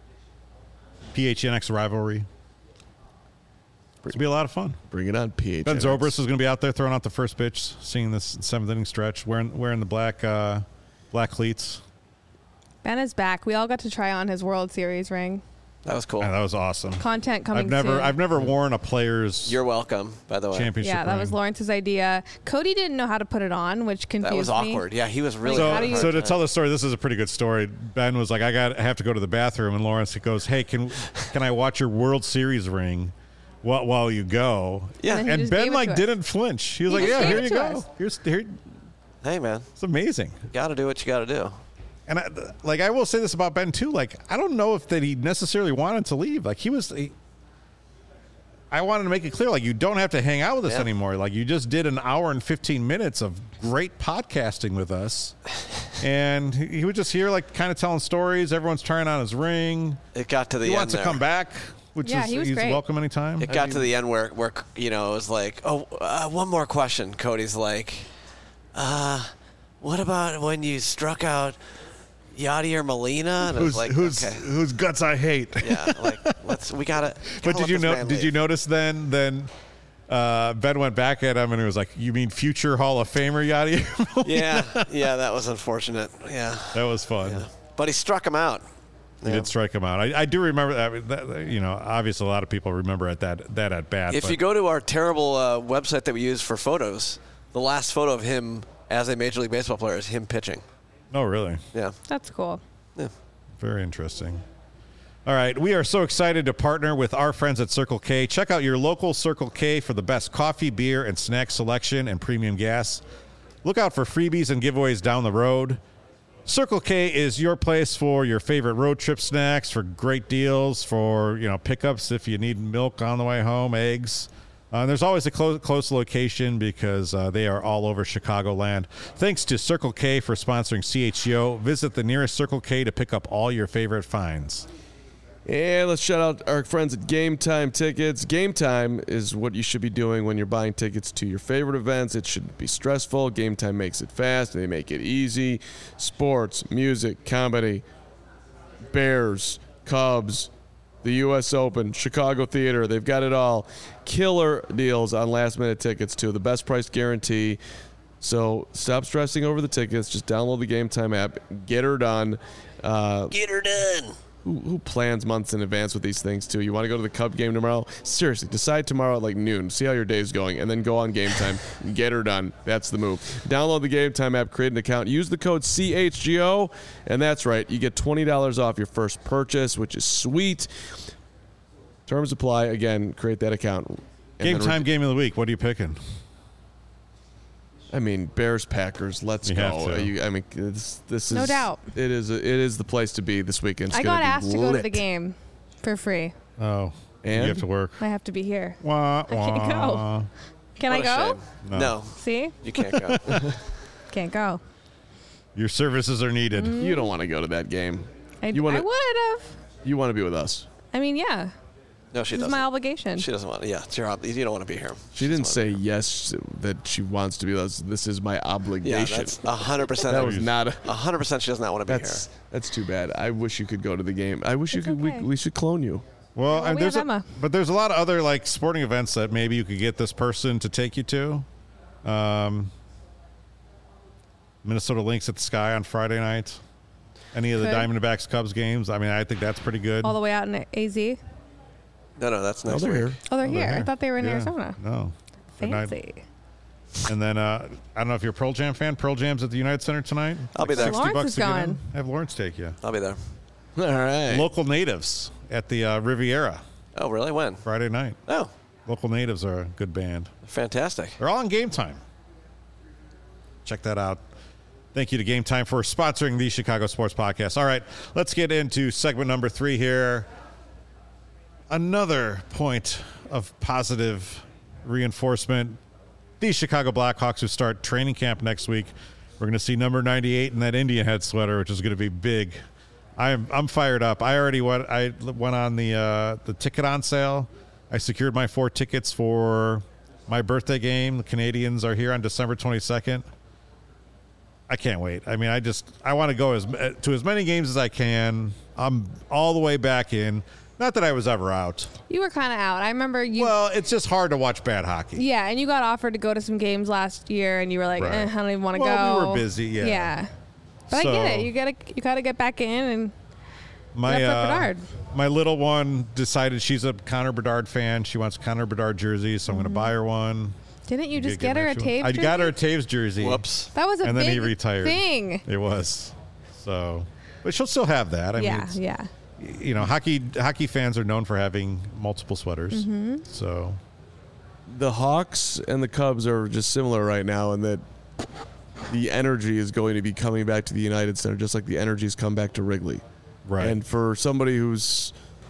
P H N X rivalry. It's going to be a lot of fun. Bring it on, P H. Ben Zobrist is going to be out there throwing out the first pitch, seeing this seventh inning stretch, wearing wearing the black uh, black cleats. Ben is back. We all got to try on his World Series ring. That was cool. Yeah, that was awesome. Content coming I've never soon. I've never worn a player's You're welcome, by the way. championship Yeah, that ring. was Lawrence's idea. Cody didn't know how to put it on, which confused That was me. awkward. Yeah, he was really. So, How do you- so to tell the story, this is a pretty good story. Ben was like, "I got, I have to go to the bathroom," and Lawrence goes, "Hey, can can I watch your World Series ring while while you go?" Yeah. And he And just Ben gave it like to us. didn't flinch. He was He like, just "Yeah, gave here it you to go. us. Here's here." Hey, man, It's amazing. got to do what you got to do. And I, like I will say this about Ben too. Like I don't know if that he necessarily wanted to leave. Like he was. He, I wanted to make it clear, like you don't have to hang out with us Yeah. anymore. Like you just did an hour and fifteen minutes of great podcasting with us, and he, he was just here, like kind of telling stories. Everyone's trying on his ring. It got to the He end wants to there. come back, which Yeah, is he was he's great. welcome anytime. It got to the end where, where you know, it was like, oh, uh, one more question. Cody's like, uh, what about when you struck out Yadier Molina? And I was Whose like, whose okay. whose guts I hate. Yeah, like, let's, we got to. But did you know? Did you notice then? Then uh, Ben went back at him and he was like, "You mean future Hall of Famer Yadier?" Yeah, yeah, that was unfortunate. Yeah. That was fun. Yeah. But he struck him out. He did strike him out. I, I do remember that, that. You know, obviously a lot of people remember at that that at bat. If but you go to our terrible uh, website that we use for photos, the last photo of him as a Major League Baseball player is him pitching. oh, really? Yeah. That's cool. Yeah. Very interesting. All right, we are so excited to partner with our friends at Circle K. Check out your local Circle K for the best coffee, beer, and snack selection and premium gas. Look out for freebies and giveaways down the road. Circle K is your place for your favorite road trip snacks, for great deals, for you know pickups if you need milk on the way home, eggs. Uh, and there's always a close, close location because uh, they are all over Chicagoland. Thanks to Circle K for sponsoring C H G O. Visit the nearest Circle K to pick up all your favorite finds. And let's shout out our friends at Game Time Tickets. Game Time is what you should be doing when you're buying tickets to your favorite events. It shouldn't be stressful. Game Time makes it fast. They make it easy. Sports, music, comedy, Bears, Cubs, the U S Open, Chicago Theater. They've got it all. Killer deals on last-minute tickets, too. The best price guarantee. So stop stressing over the tickets. Just download the Game Time app. Get her done. Uh, Get her done. Who, who plans months in advance with these things, too? You want to go to the Cub game tomorrow? Seriously, decide tomorrow at like noon. See how your day's going, and then go on Game Time. Get her done. That's the move. Download the Game Time app, create an account, use the code C H G O, and that's right. You get twenty dollars off your first purchase, which is sweet. Terms apply. Again, create that account. And Game then re- time, game of the week. What are you picking? I mean, Bears, Packers. Let's You go. have to. Uh, you- I mean, this, this is No doubt. It is. A, it is the place to be this weekend. It's I gonna got be asked to go to lit. the game. For free. Oh, And? you have to work. I have to be here. Wah, I can't go. wah. Can What I a go? shame. No. No, See? you can't go. Can't go. Your services are needed. Mm-hmm. You don't want to go to that game. I, You wanna- I would have. You want to be with us. I mean, yeah. No, she This is doesn't. my obligation. She doesn't want. Yeah, it's your. ob- You don't want to be here. She didn't say yes that she wants to be with us. This is my Yeah, obligation. that's a hundred percent. that was not a. A hundred percent. She does not want to be That's here. that's too bad. I wish you could go to the game. I wish It's you could. okay. We, we should clone you. Well, Well, and we there's have a, Emma. but there's a lot of other like sporting events that maybe you could get this person to take you to. Um, Minnesota Lynx at the Sky on Friday night. Any of the Could. Diamondbacks Cubs games. I mean, I think that's pretty good. All the way out in A Z. No, no, that's Oh, next they're week. here. Oh, they're Oh, here. they're I thought they were in Yeah. Arizona. No. Good night. Fancy. And then uh, I don't know if you're a Pearl Jam fan. Pearl Jam's at the United Center tonight. I'll be there. sixty Lawrence bucks is to get in. going. Have Lawrence take you. I'll be there. All right. Local natives at the uh, Riviera Oh, really? When? Friday night. Oh, Local natives are a good band. fantastic. They're all on Game Time. Check that out. Thank you to Game Time for sponsoring the Chicago Sports Podcast. All right, let's get into segment number three here. Another point of positive reinforcement. The Chicago Blackhawks who start training camp next week. We're going to see number ninety-eight in that Indian head sweater, which is going to be big. I'm I'm fired up. I already went. I went on the uh, the ticket on sale. I secured my four tickets for my birthday game. The Canadians are here on December twenty-second. I can't wait. I mean, I just I want to go as to as many games as I can. I'm all the way back in. Not that I was ever out. You were kind of out. I remember you. Well, it's just hard to watch bad hockey. Yeah, and you got offered to go to some games last year, and you were like, Right. eh, I don't even want to Well, go. we were busy, yeah. Yeah. But So- I get it. You gotta, you gotta get back in, and My That's up uh, Bedard. my little one decided she's a Connor Bedard fan. She wants a Connor Bedard jersey, so I'm going to buy her one. didn't you just Get get her a an extra one. Taves I jersey? got her a Taves jersey. Whoops. That was a and big then he retired. thing. It was. So, but she'll still have that. I mean, Yeah, it's, yeah. you know, hockey hockey fans are known for having multiple sweaters. Mm-hmm. So, The Hawks and the Cubs are just similar right now in that the energy is going to be coming back to the United Center, just like the energy's come back to Wrigley. right. And for somebody who's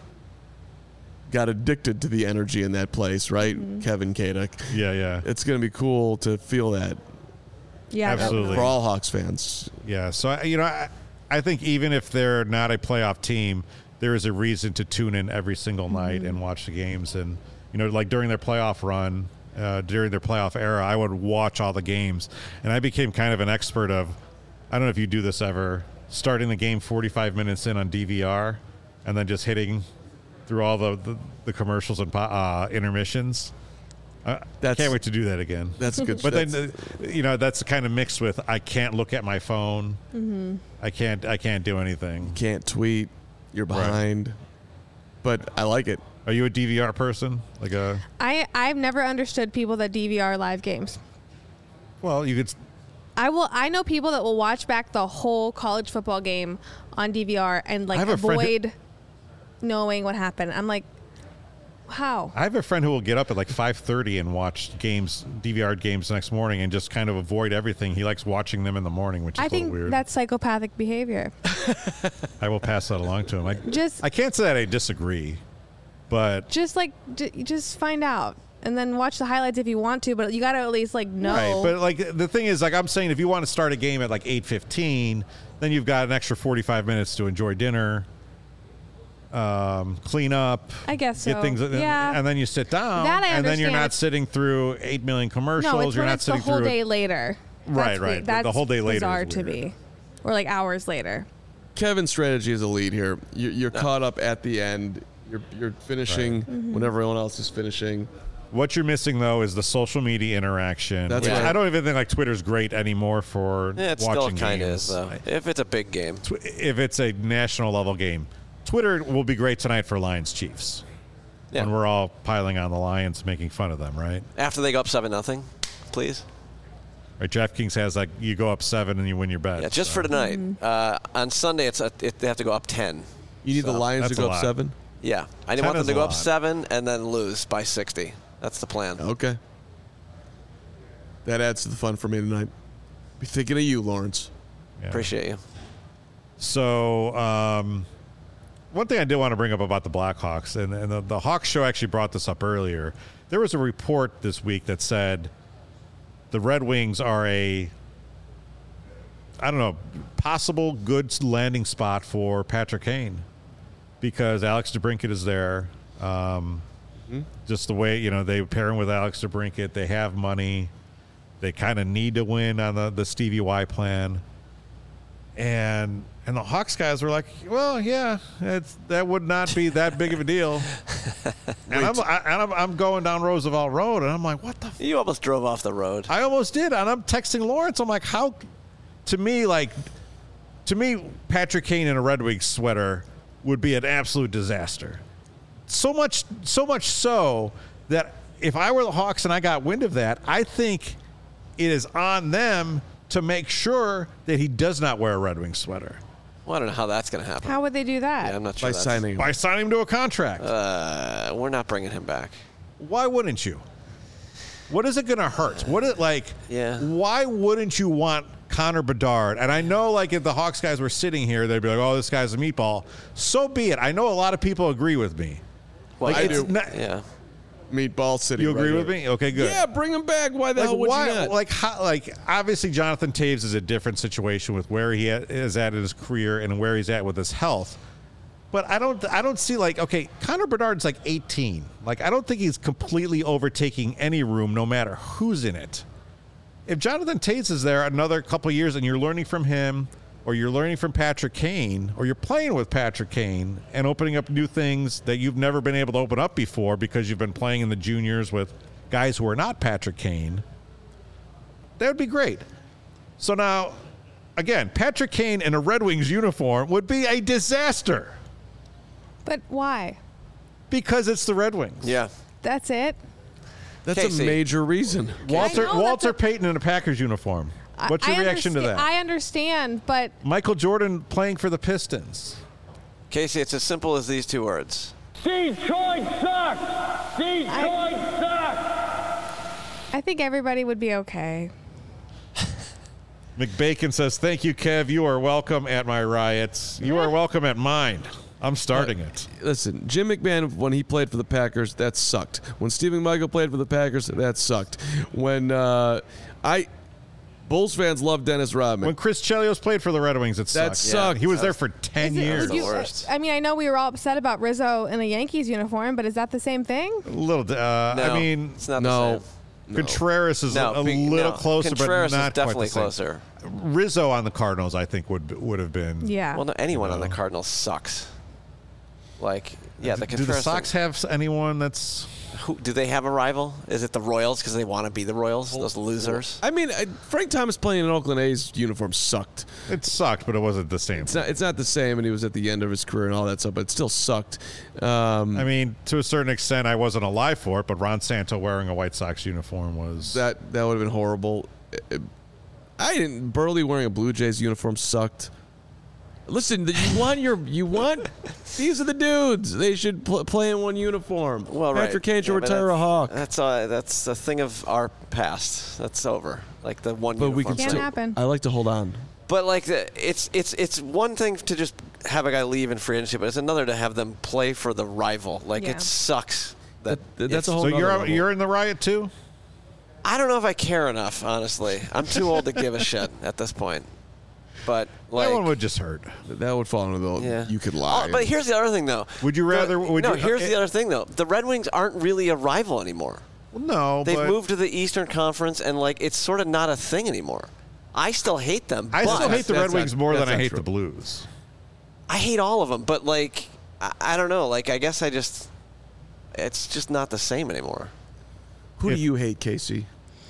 got addicted to the energy in that place, right, Mm-hmm. Kevin Kadek, yeah, yeah. it's going to be cool to feel that Yeah, Absolutely. for all Hawks fans. Yeah, so I- you know, I, I think even if they're not a playoff team, there is a reason to tune in every single night and watch the games. And you know, like during their playoff run, uh, during their playoff era, I would watch all the games, and I became kind of an expert of. I don't know if you do this ever, starting the game forty-five minutes in on D V R, and then just hitting through all the the, the commercials and po- uh, intermissions. I That's- can't wait to do that again. That's good. But then, that's- uh, you know, that's kind of mixed with I can't look at my phone. Mm-hmm. I can't. I can't do anything. can't tweet, you're behind. But I like it. Are you a D V R person? Like a I I've never understood people that D V R live games. well, you could. I will. I know people that will watch back the whole college football game on D V R and like I have a friend who- avoid knowing what happened. I'm like, how? I have a friend who will get up at like five thirty and watch games, D V R games the next morning, and just kind of avoid everything. He likes watching them in the morning, which is I a little think weird. that's psychopathic behavior. I will pass that along to him. I, Just I can't say that I disagree, but just like j- just find out and then watch the highlights if you want to, but you got to at least like know. right. But like the thing is, like I'm saying, if you want to start a game at like eight fifteen, then you've got an extra forty-five minutes to enjoy dinner, um, clean up. I guess Get so. things, Yeah. and then you sit down, That I and then you're understand. not sitting through eight million commercials. no, it's you're when not it's the sitting whole through. day later. Right, That's right. weird. The- the That's whole day later is bizarre to weird. me, or like hours later. Kevin's strategy is a lead here. You're, you're caught up at the end. You're, you're finishing Right. Mm-hmm. when everyone else is finishing. What you're missing though is the social media interaction. That's which right. I don't even think like Twitter's great anymore for Yeah, it still watching kind of games. is though. If it's a big game. Tw- If it's a national level game, Twitter will be great tonight for Lions Chiefs. Yeah. When we're all piling on the Lions, making fun of them, right? After they go up seven nothing, please. Right. DraftKings has like you go up seven and you win your bet. Yeah, just so. for tonight. Uh, on Sunday, it's a, it, they have to go up ten. You need So, the Lions to that's go a up lot. seven? Yeah, I ten want them is to a go up lot. seven and then lose by sixty. That's the plan. Okay. That adds to the fun for me tonight. Be thinking of you, Lawrence. Yeah. Appreciate you. So, um, one thing I did want to bring up about the Blackhawks, and, and the, the Hawks show actually brought this up earlier. There was a report this week that said the Red Wings are a, I don't know, possible good landing spot for Patrick Kane because Alex DeBrincat is there. Um, mm-hmm. Just the way, you know, they pair him with Alex DeBrincat. They have money. They kind of need to win on the, the Stevie Y plan. And and the Hawks guys were like, well, yeah, it's, that would not be that big of a deal. and I'm, I, and I'm I'm going down Roosevelt Road, and I'm like, what the? F-? You almost drove off the road. I almost did, and I'm texting Lawrence. I'm like, how? To me, like, to me, Patrick Kane in a Red Wings sweater would be an absolute disaster. So much, so much so that if I were the Hawks and I got wind of that, I think it is on them to make sure that he does not wear a Red Wings sweater. Well, I don't know how that's going to happen. How would they do that? Yeah, I'm not sure. By that's, signing. By signing him to a contract. Uh, we're not bringing him back. Why wouldn't you? What is it going to hurt? What is like? Yeah. Why wouldn't you want Connor Bedard? And I know, like, if the Hawks guys were sitting here, they'd be like, "Oh, this guy's a meatball." So be it. I know a lot of people agree with me. Well, Like, I it's do. not- yeah. Meatball City. You agree right with here. me? Okay, good. Yeah, bring him back. Why the Like hell would why? you not? Like how? Like obviously, Jonathan Taves is a different situation with where he is at in his career and where he's at with his health. But I don't. I don't see like okay, Connor Bedard's like eighteen. Like I don't think he's completely overtaking any room, no matter who's in it. If Jonathan Taves is there another couple of years and you're learning from him, or you're learning from Patrick Kane, or you're playing with Patrick Kane and opening up new things that you've never been able to open up before because you've been playing in the juniors with guys who are not Patrick Kane, that would be great. So now, again, Patrick Kane in a Red Wings uniform would be a disaster But why? because it's the Red Wings. Yeah. That's it? That's Casey. a major reason. Walter I know Walter that's a- Payton in a Packers uniform. I- What's your I reaction to understa- that? I understand, but Michael Jordan playing for the Pistons. Casey, it's as simple as these two words. Detroit sucks! Detroit sucks! I think everybody would be okay. McBacon says, "Thank you, Kev. You are welcome at my riots. You are welcome at mine. I'm starting it." Listen, Jim McMahon, when he played for the Packers, that sucked. When Stephen Michael played for the Packers, that sucked. When uh, I... Bulls fans love Dennis Rodman. When Chris Chelios played for the Red Wings, it That sucked. sucked. He was there for ten Is it- years. would you- The worst. I mean, I know we were all upset about Rizzo in a Yankees uniform, but is that the same thing? A little. Uh, No, I mean, it's not no. the same. Contreras is No, a, a be- little no. closer, Contreras but not is definitely quite the same. closer. Rizzo on the Cardinals, I think, would would have been. Yeah. Well, no, anyone on the No. Cardinals sucks. Like, yeah, the Do the Contreras Sox thing- have anyone that's? Who, do they have a rival? Is it the Royals because they want to be the Royals? Those losers. I mean, I, Frank Thomas playing in an Oakland A's uniform sucked. It sucked, but it wasn't the same. It's not. It's not the same, and he was at the end of his career and all that stuff, but it still sucked. Um, I mean, to a certain extent, I wasn't alive for it, but Ron Santo wearing a White Sox uniform was. that that would have been horrible. It- I didn't. Burley wearing a Blue Jays uniform sucked. Listen, you want your you want. These are the dudes. They should pl- play in one uniform. Well, right. Patrick Kane should Yeah, but retire a that's- Hawk. That's uh, that's a thing of our past. That's over. Like the one. But we uniform can Can't thing. still. happen. I like to hold on. But like the, it's it's it's one thing to just have a guy leave in free agency, but it's another to have them play for the rival. Like Yeah. it sucks. That, That- that's it's- a whole so nother you're level. you're in the riot too. I don't know if I care enough. Honestly, I'm too old to give a shit at this point. But like, that one would just hurt. That would fall into the. yeah, You could lie. Oh, but here's the other thing, though. Would you The- rather- would no, you- here's uh, the other thing, though. The Red Wings aren't really a rival anymore. Well, no, They've but moved to the Eastern Conference, and like it's sort of not a thing anymore. I still hate them. I but still hate the That's Red not- Wings more that's than I not hate true. the Blues. I hate all of them. But like, I, I don't know. Like, I guess I just, it's just not the same anymore. Who if- do you hate, Casey?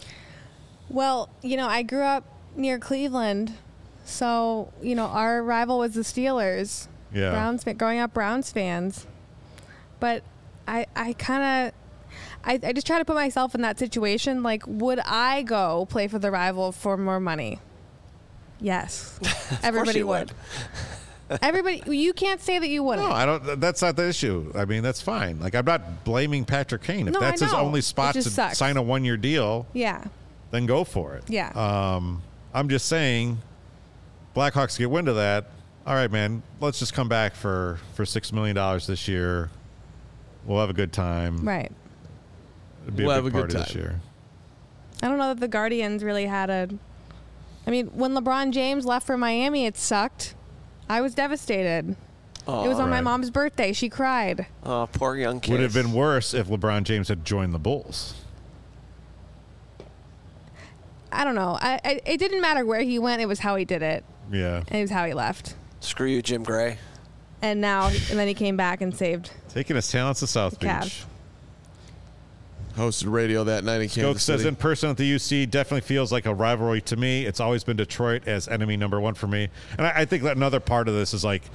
Well, you know, I grew up near Cleveland, so you know our rival was the Steelers. Yeah. Browns fa- growing up Browns fans, but I I kind of. I, I just try to put myself in that situation. Like, would I go play for the rival for more money? Yes. Everybody you would. Everybody, you can't say that you wouldn't. No, I don't. That's not the issue. I mean, that's fine. Like, I'm not blaming Patrick Kane. If No, I that's his know. only It spot just to sucks. sign a one-year deal, Yeah. then go for it. Yeah. Um, I'm just saying, Blackhawks get wind of that. all right, man, let's just come back for, for six million dollars this year. We'll have a good time. Right. It'd be We'll a have big a good party this time. year. I don't know that the Guardians really had a. I mean, when LeBron James left for Miami, it sucked. I was devastated. Oh, It was on my Right. mom's birthday. She cried. oh, poor young kid. Would have been worse if LeBron James had joined the Bulls. I don't know. I, I it didn't matter where he went. It was how he did it. Yeah. And it was how he left. Screw you, Jim Gray. And now, and then he came back and saved. Taking his talents to South The Cavs. Beach. Hosted radio that night in Kansas Coke says City. in person at the U C definitely feels like a rivalry to me. It's always been Detroit as enemy number one for me. And I, I think that another part of this is like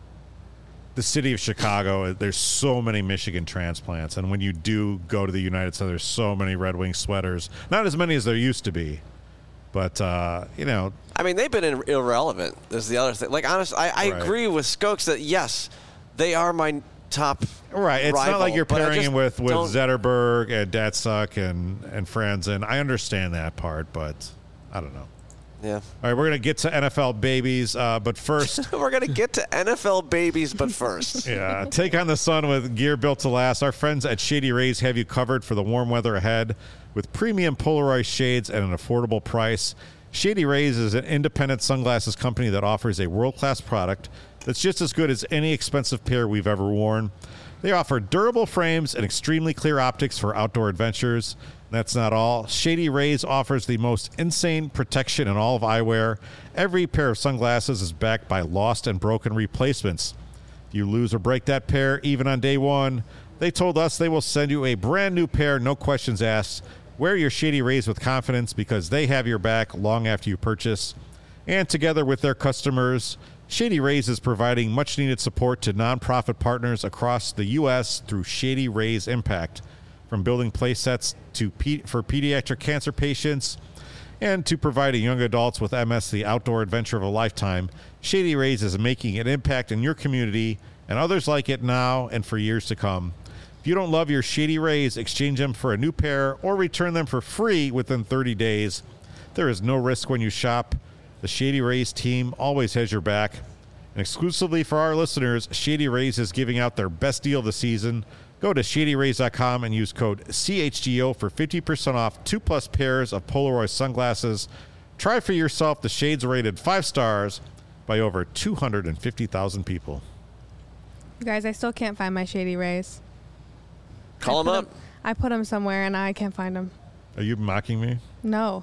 the city of Chicago. There's so many Michigan transplants. And when you do go to the United Center, there's so many Red Wing sweaters. Not as many as there used to be. But, uh, you know, I mean, they've been in, irrelevant. Is the other thing. Like, honestly, I, I Right. agree with Skokes that, yes, they are my top right. It's rival, not like you're but I pairing just him with, with don't- Zetterberg and Datsuk and, and Franzen. I understand that part, but I don't know. Yeah. All right, we're going to get to N F L babies, uh, but first... We're going to get to N F L babies, but first. Yeah, take on the sun with gear built to last. Our friends at Shady Rays have you covered for the warm weather ahead with premium Polaroid shades at an affordable price. Shady Rays is an independent sunglasses company that offers a world-class product that's just as good as any expensive pair we've ever worn. They offer durable frames and extremely clear optics for outdoor adventures. That's not all. Shady Rays offers the most insane protection in all of eyewear. Every pair of sunglasses is backed by lost and broken replacements. If you lose or break that pair, even on day one, they told us they will send you a brand new pair, no questions asked. Wear your Shady Rays with confidence because they have your back long after you purchase. And together with their customers, Shady Rays is providing much-needed support to nonprofit partners across the U S through Shady Rays Impact. From building play sets to pe- for pediatric cancer patients and to providing young adults with M S the outdoor adventure of a lifetime, Shady Rays is making an impact in your community and others like it now and for years to come. If you don't love your Shady Rays, exchange them for a new pair or return them for free within thirty days. There is no risk when you shop. The Shady Rays team always has your back. And exclusively for our listeners, Shady Rays is giving out their best deal of the season. Go to shady rays dot com and use code C H G O for fifty percent off two plus pairs of Polaroid sunglasses. Try for yourself the shades rated five stars by over two hundred fifty thousand people. You guys, I still can't find my Shady Rays. Call I them put up. 'em- I put them somewhere and I can't find them. Are you mocking me? No.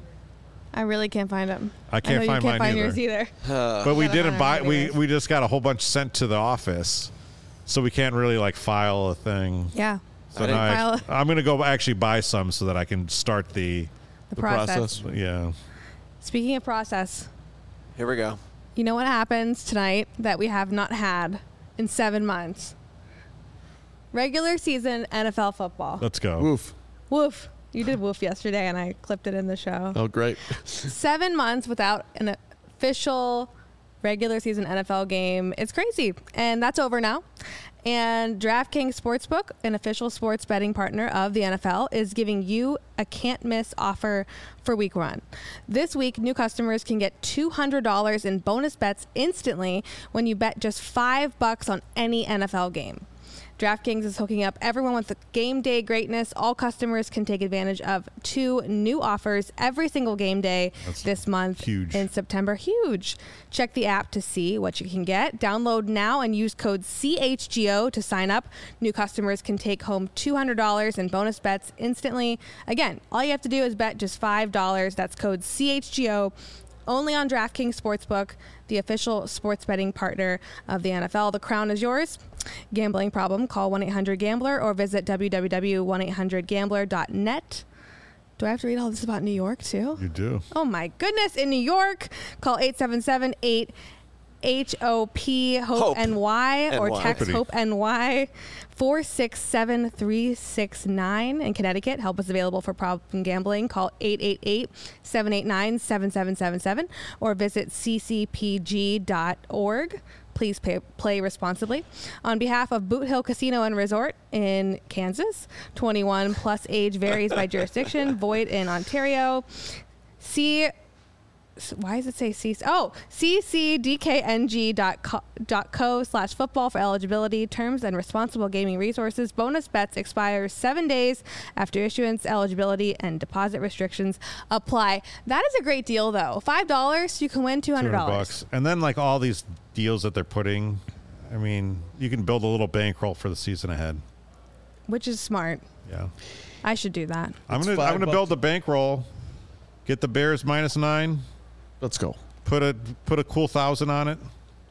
I really can't find them. I can't know find you can't mine find yours either. either. But we gotta didn't find buy. our We Shady we just got a whole bunch sent to the office, so we can't really like file a thing. Yeah. So I now didn't I, I'm going to go actually buy some so that I can start the. The, The process. process. Yeah. Speaking of process, Here we go. you know what happens tonight that we have not had in seven months? Regular season N F L football. Let's go. Woof. Woof. You did woof yesterday and I clipped it in the show. Oh, great. Seven months without an official regular season N F L game. It's crazy. And that's over now. And DraftKings Sportsbook, an official sports betting partner of the N F L, is giving you a can't miss offer for week one. This week, new customers can get two hundred dollars in bonus bets instantly when you bet just five bucks on any N F L game. DraftKings is hooking up everyone with the game day greatness. All customers can take advantage of two new offers every single game day That's this month huge. in September. Huge. Check the app to see what you can get. Download now and use code C H G O to sign up. New customers can take home two hundred dollars in bonus bets instantly. Again, all you have to do is bet just five dollars. That's code C H G O. Only on DraftKings Sportsbook, the official sports betting partner of the N F L. The crown is yours. Gambling problem? Call one eight hundred gambler or visit w w w dot one eight hundred gambler dot net. Do I have to read all this about New York too? You do. Oh my goodness! In New York, call eight seven seven eight H O P Hope Hope N Y or N Y. text Hoppity. Hope N Y four six seven three six nine. In Connecticut, help is available for problem gambling. Call eight eight eight seven eight nine seven seven seven seven or visit c c p g dot org. Please pay, play responsibly. On behalf of Boot Hill Casino and Resort in Kansas, twenty-one plus age varies by jurisdiction, void in Ontario. See why does it say C? Oh, ccdkng.co slash football for eligibility, terms, and responsible gaming resources. Bonus bets expires seven days after issuance. Eligibility and deposit restrictions apply. That is a great deal, though. Five dollars, you can win two hundred dollars. bucks. And then, like, all these deals that they're putting, I mean, you can build a little bankroll for the season ahead. Which is smart. Yeah. I should do that. I'm It's going to I'm five gonna build a bankroll, get the Bears minus nine, Let's go. put a put a cool thousand on it.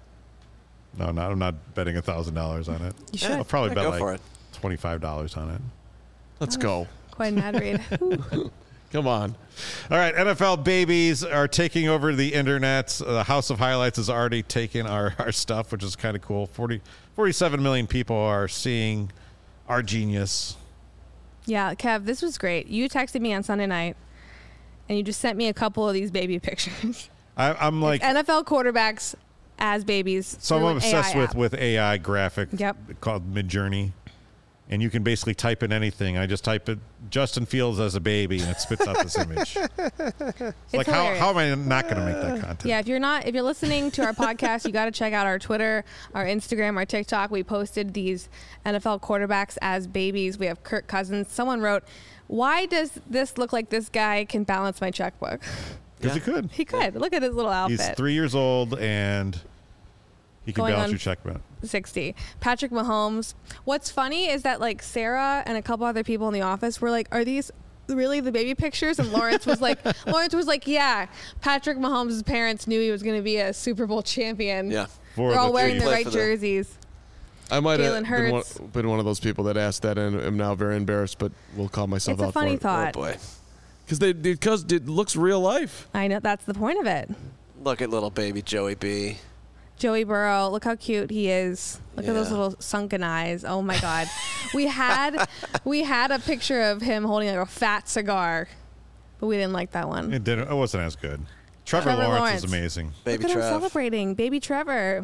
No, no, I'm not betting a thousand dollars on it. You should. I'll probably Yeah, bet go like for it. twenty-five dollars on it. Let's go. Quite an ad read. Come on. All right, N F L babies are taking over the internet. Uh, the House of Highlights has already taken our, our stuff, which is kind of cool. forty, forty-seven million people are seeing our genius. Yeah, Kev, this was great. You texted me on Sunday night, and you just sent me a couple of these baby pictures. I, I'm like, N F L quarterbacks as babies. so I'm through an obsessed A I with, app. with A I graphic Yep. called Midjourney. And you can basically type in anything. I just type it Justin Fields as a baby, and it spits out this image. It's like, how, hilarious. how am I not going to make that content? Yeah, if you're not, if you're listening to our podcast, you got to check out our Twitter, our Instagram, our TikTok. We posted these N F L quarterbacks as babies. We have Kirk Cousins. Someone wrote, "Why does this look like this guy can balance my checkbook?" Because Yeah. he could. He could. Look at his little outfit. He's three years old, and he can Going balance on your checkbook. sixty. Patrick Mahomes. What's funny is that like Sarah and a couple other people in the office were like, "Are these really the baby pictures?" And Lawrence was like, "Lawrence was like, yeah, Patrick Mahomes' parents knew he was going to be a Super Bowl champion. Yeah. For They're all the wearing Chiefs. the Play right for the- jerseys." I might Jalen have been one, Hurts. been one of those people that asked that and am now very embarrassed, but we'll call myself It's a out funny for thought. Oh boy. Because they because it looks real life. I know that's the point of it. Look at little baby Joey B. Joey Burrow, look how cute he is. Look at those Yeah. little sunken eyes. Oh my God. we had we had a picture of him holding like a fat cigar, but we didn't like that one. It didn't. It wasn't as good. Trevor, Trevor Lawrence, Lawrence. is amazing. Baby Look at him Trev. celebrating. Baby Trevor.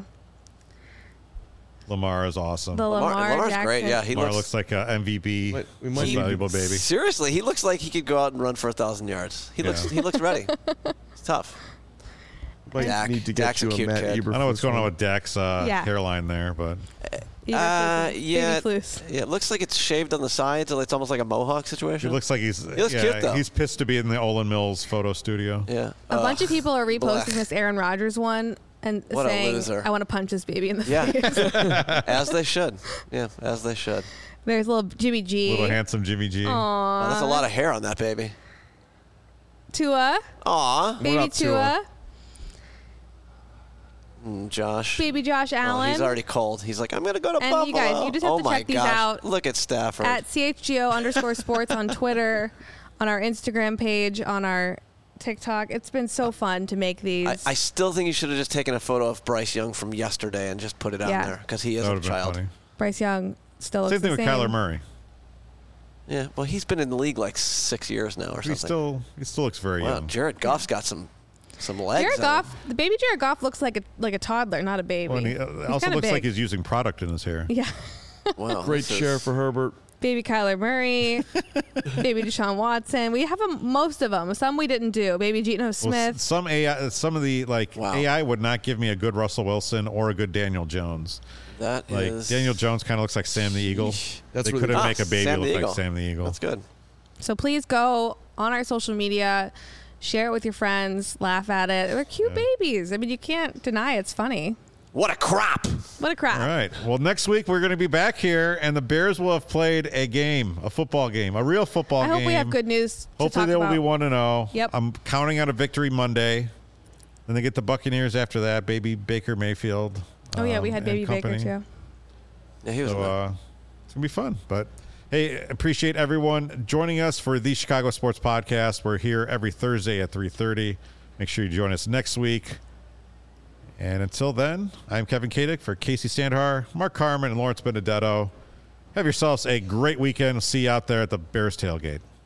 Lamar is awesome. The Lamar, Lamar Lamar's Jackson. great. Yeah, he Lamar looks, looks like a M V P, Wait, we most might- valuable baby. Seriously, he looks like he could go out and run for a thousand yards. He looks Yeah. he looks ready. It's tough. Might Dak- need to get Dak's a you a cute Matt kid. Eberflus I know what's going on one. with Dak's uh, Yeah. hairline there, but Eberflus. Uh, Baby yeah, Flus. yeah. It looks like it's shaved on the sides. It's almost like a mohawk he situation. looks like he's looks yeah, cute, though. he's pissed to be in the Olin Mills photo studio. yeah. A Ugh. bunch of people are reposting blech. this Aaron Rodgers one and What a saying, loser. "I want to punch this baby in the Yeah. face." As they should. Yeah, as they should. There's little Jimmy G. Little handsome Jimmy G. Aw. Oh, that's a lot of hair on that baby. Tua. Aw, Baby up, Tua? Tua. Mm, Josh. Baby Josh Oh, Allen. he's already cold. He's like, I'm gonna go to And Buffalo. you guys, you just have oh to my check these gosh. out Look at Stafford. at C H G O underscore sports on Twitter, on our Instagram page, on our TikTok. It's been so fun to make these. I, I still think you should have just taken a photo of Bryce Young from yesterday and just put it out Yeah. there because he is That a would have been child. funny. Bryce Young still looks Same thing the with same. Kyler Murray. Yeah, well, he's been in the league like six years now or He something. still he still looks very wow, young. Jared Goff's got some some legs. Jared on Goff, him. the baby Jared Goff looks like a like a toddler, not a baby. Well, and he uh, He's also kinda looks like big. he's using product in his hair. Yeah. Wow, Great this share is- for Herbert. Baby Kyler Murray, baby Deshaun Watson. We have 'em- most of them. Some we didn't do. Baby Geno Well, Smith. s- some A I, some of the like Wow. A I would not give me a good Russell Wilson or a good Daniel Jones. That Like is Daniel Jones kind of looks like Sam the Eagle. That's they really- couldn't Ah, make a baby Sam the look Eagle. like Sam the Eagle. That's good. So please go on our social media, share it with your friends, laugh at it. They're cute Yeah. babies. I mean, you can't deny it's funny. What a crop! What a crap. All right. Well, next week we're going to be back here, and the Bears will have played a game, a football game, a real football I game. hope we have good news. To Hopefully talk they will about. be one and zero. Yep. I'm counting on a victory Monday. Then they get the Buccaneers after that. Baby Baker Mayfield. Oh yeah, we um, had and Baby Baker company. too. Yeah, he was. So good. uh, it's gonna be fun. But hey, appreciate everyone joining us for the Chicago Sports Podcast. We're here every Thursday at three thirty. Make sure you join us next week. And until then, I'm Kevin Kadick for Casey Sandhar, Mark Carmen, and Lawrence Benedetto. Have yourselves a great weekend. See you out there at the Bears tailgate.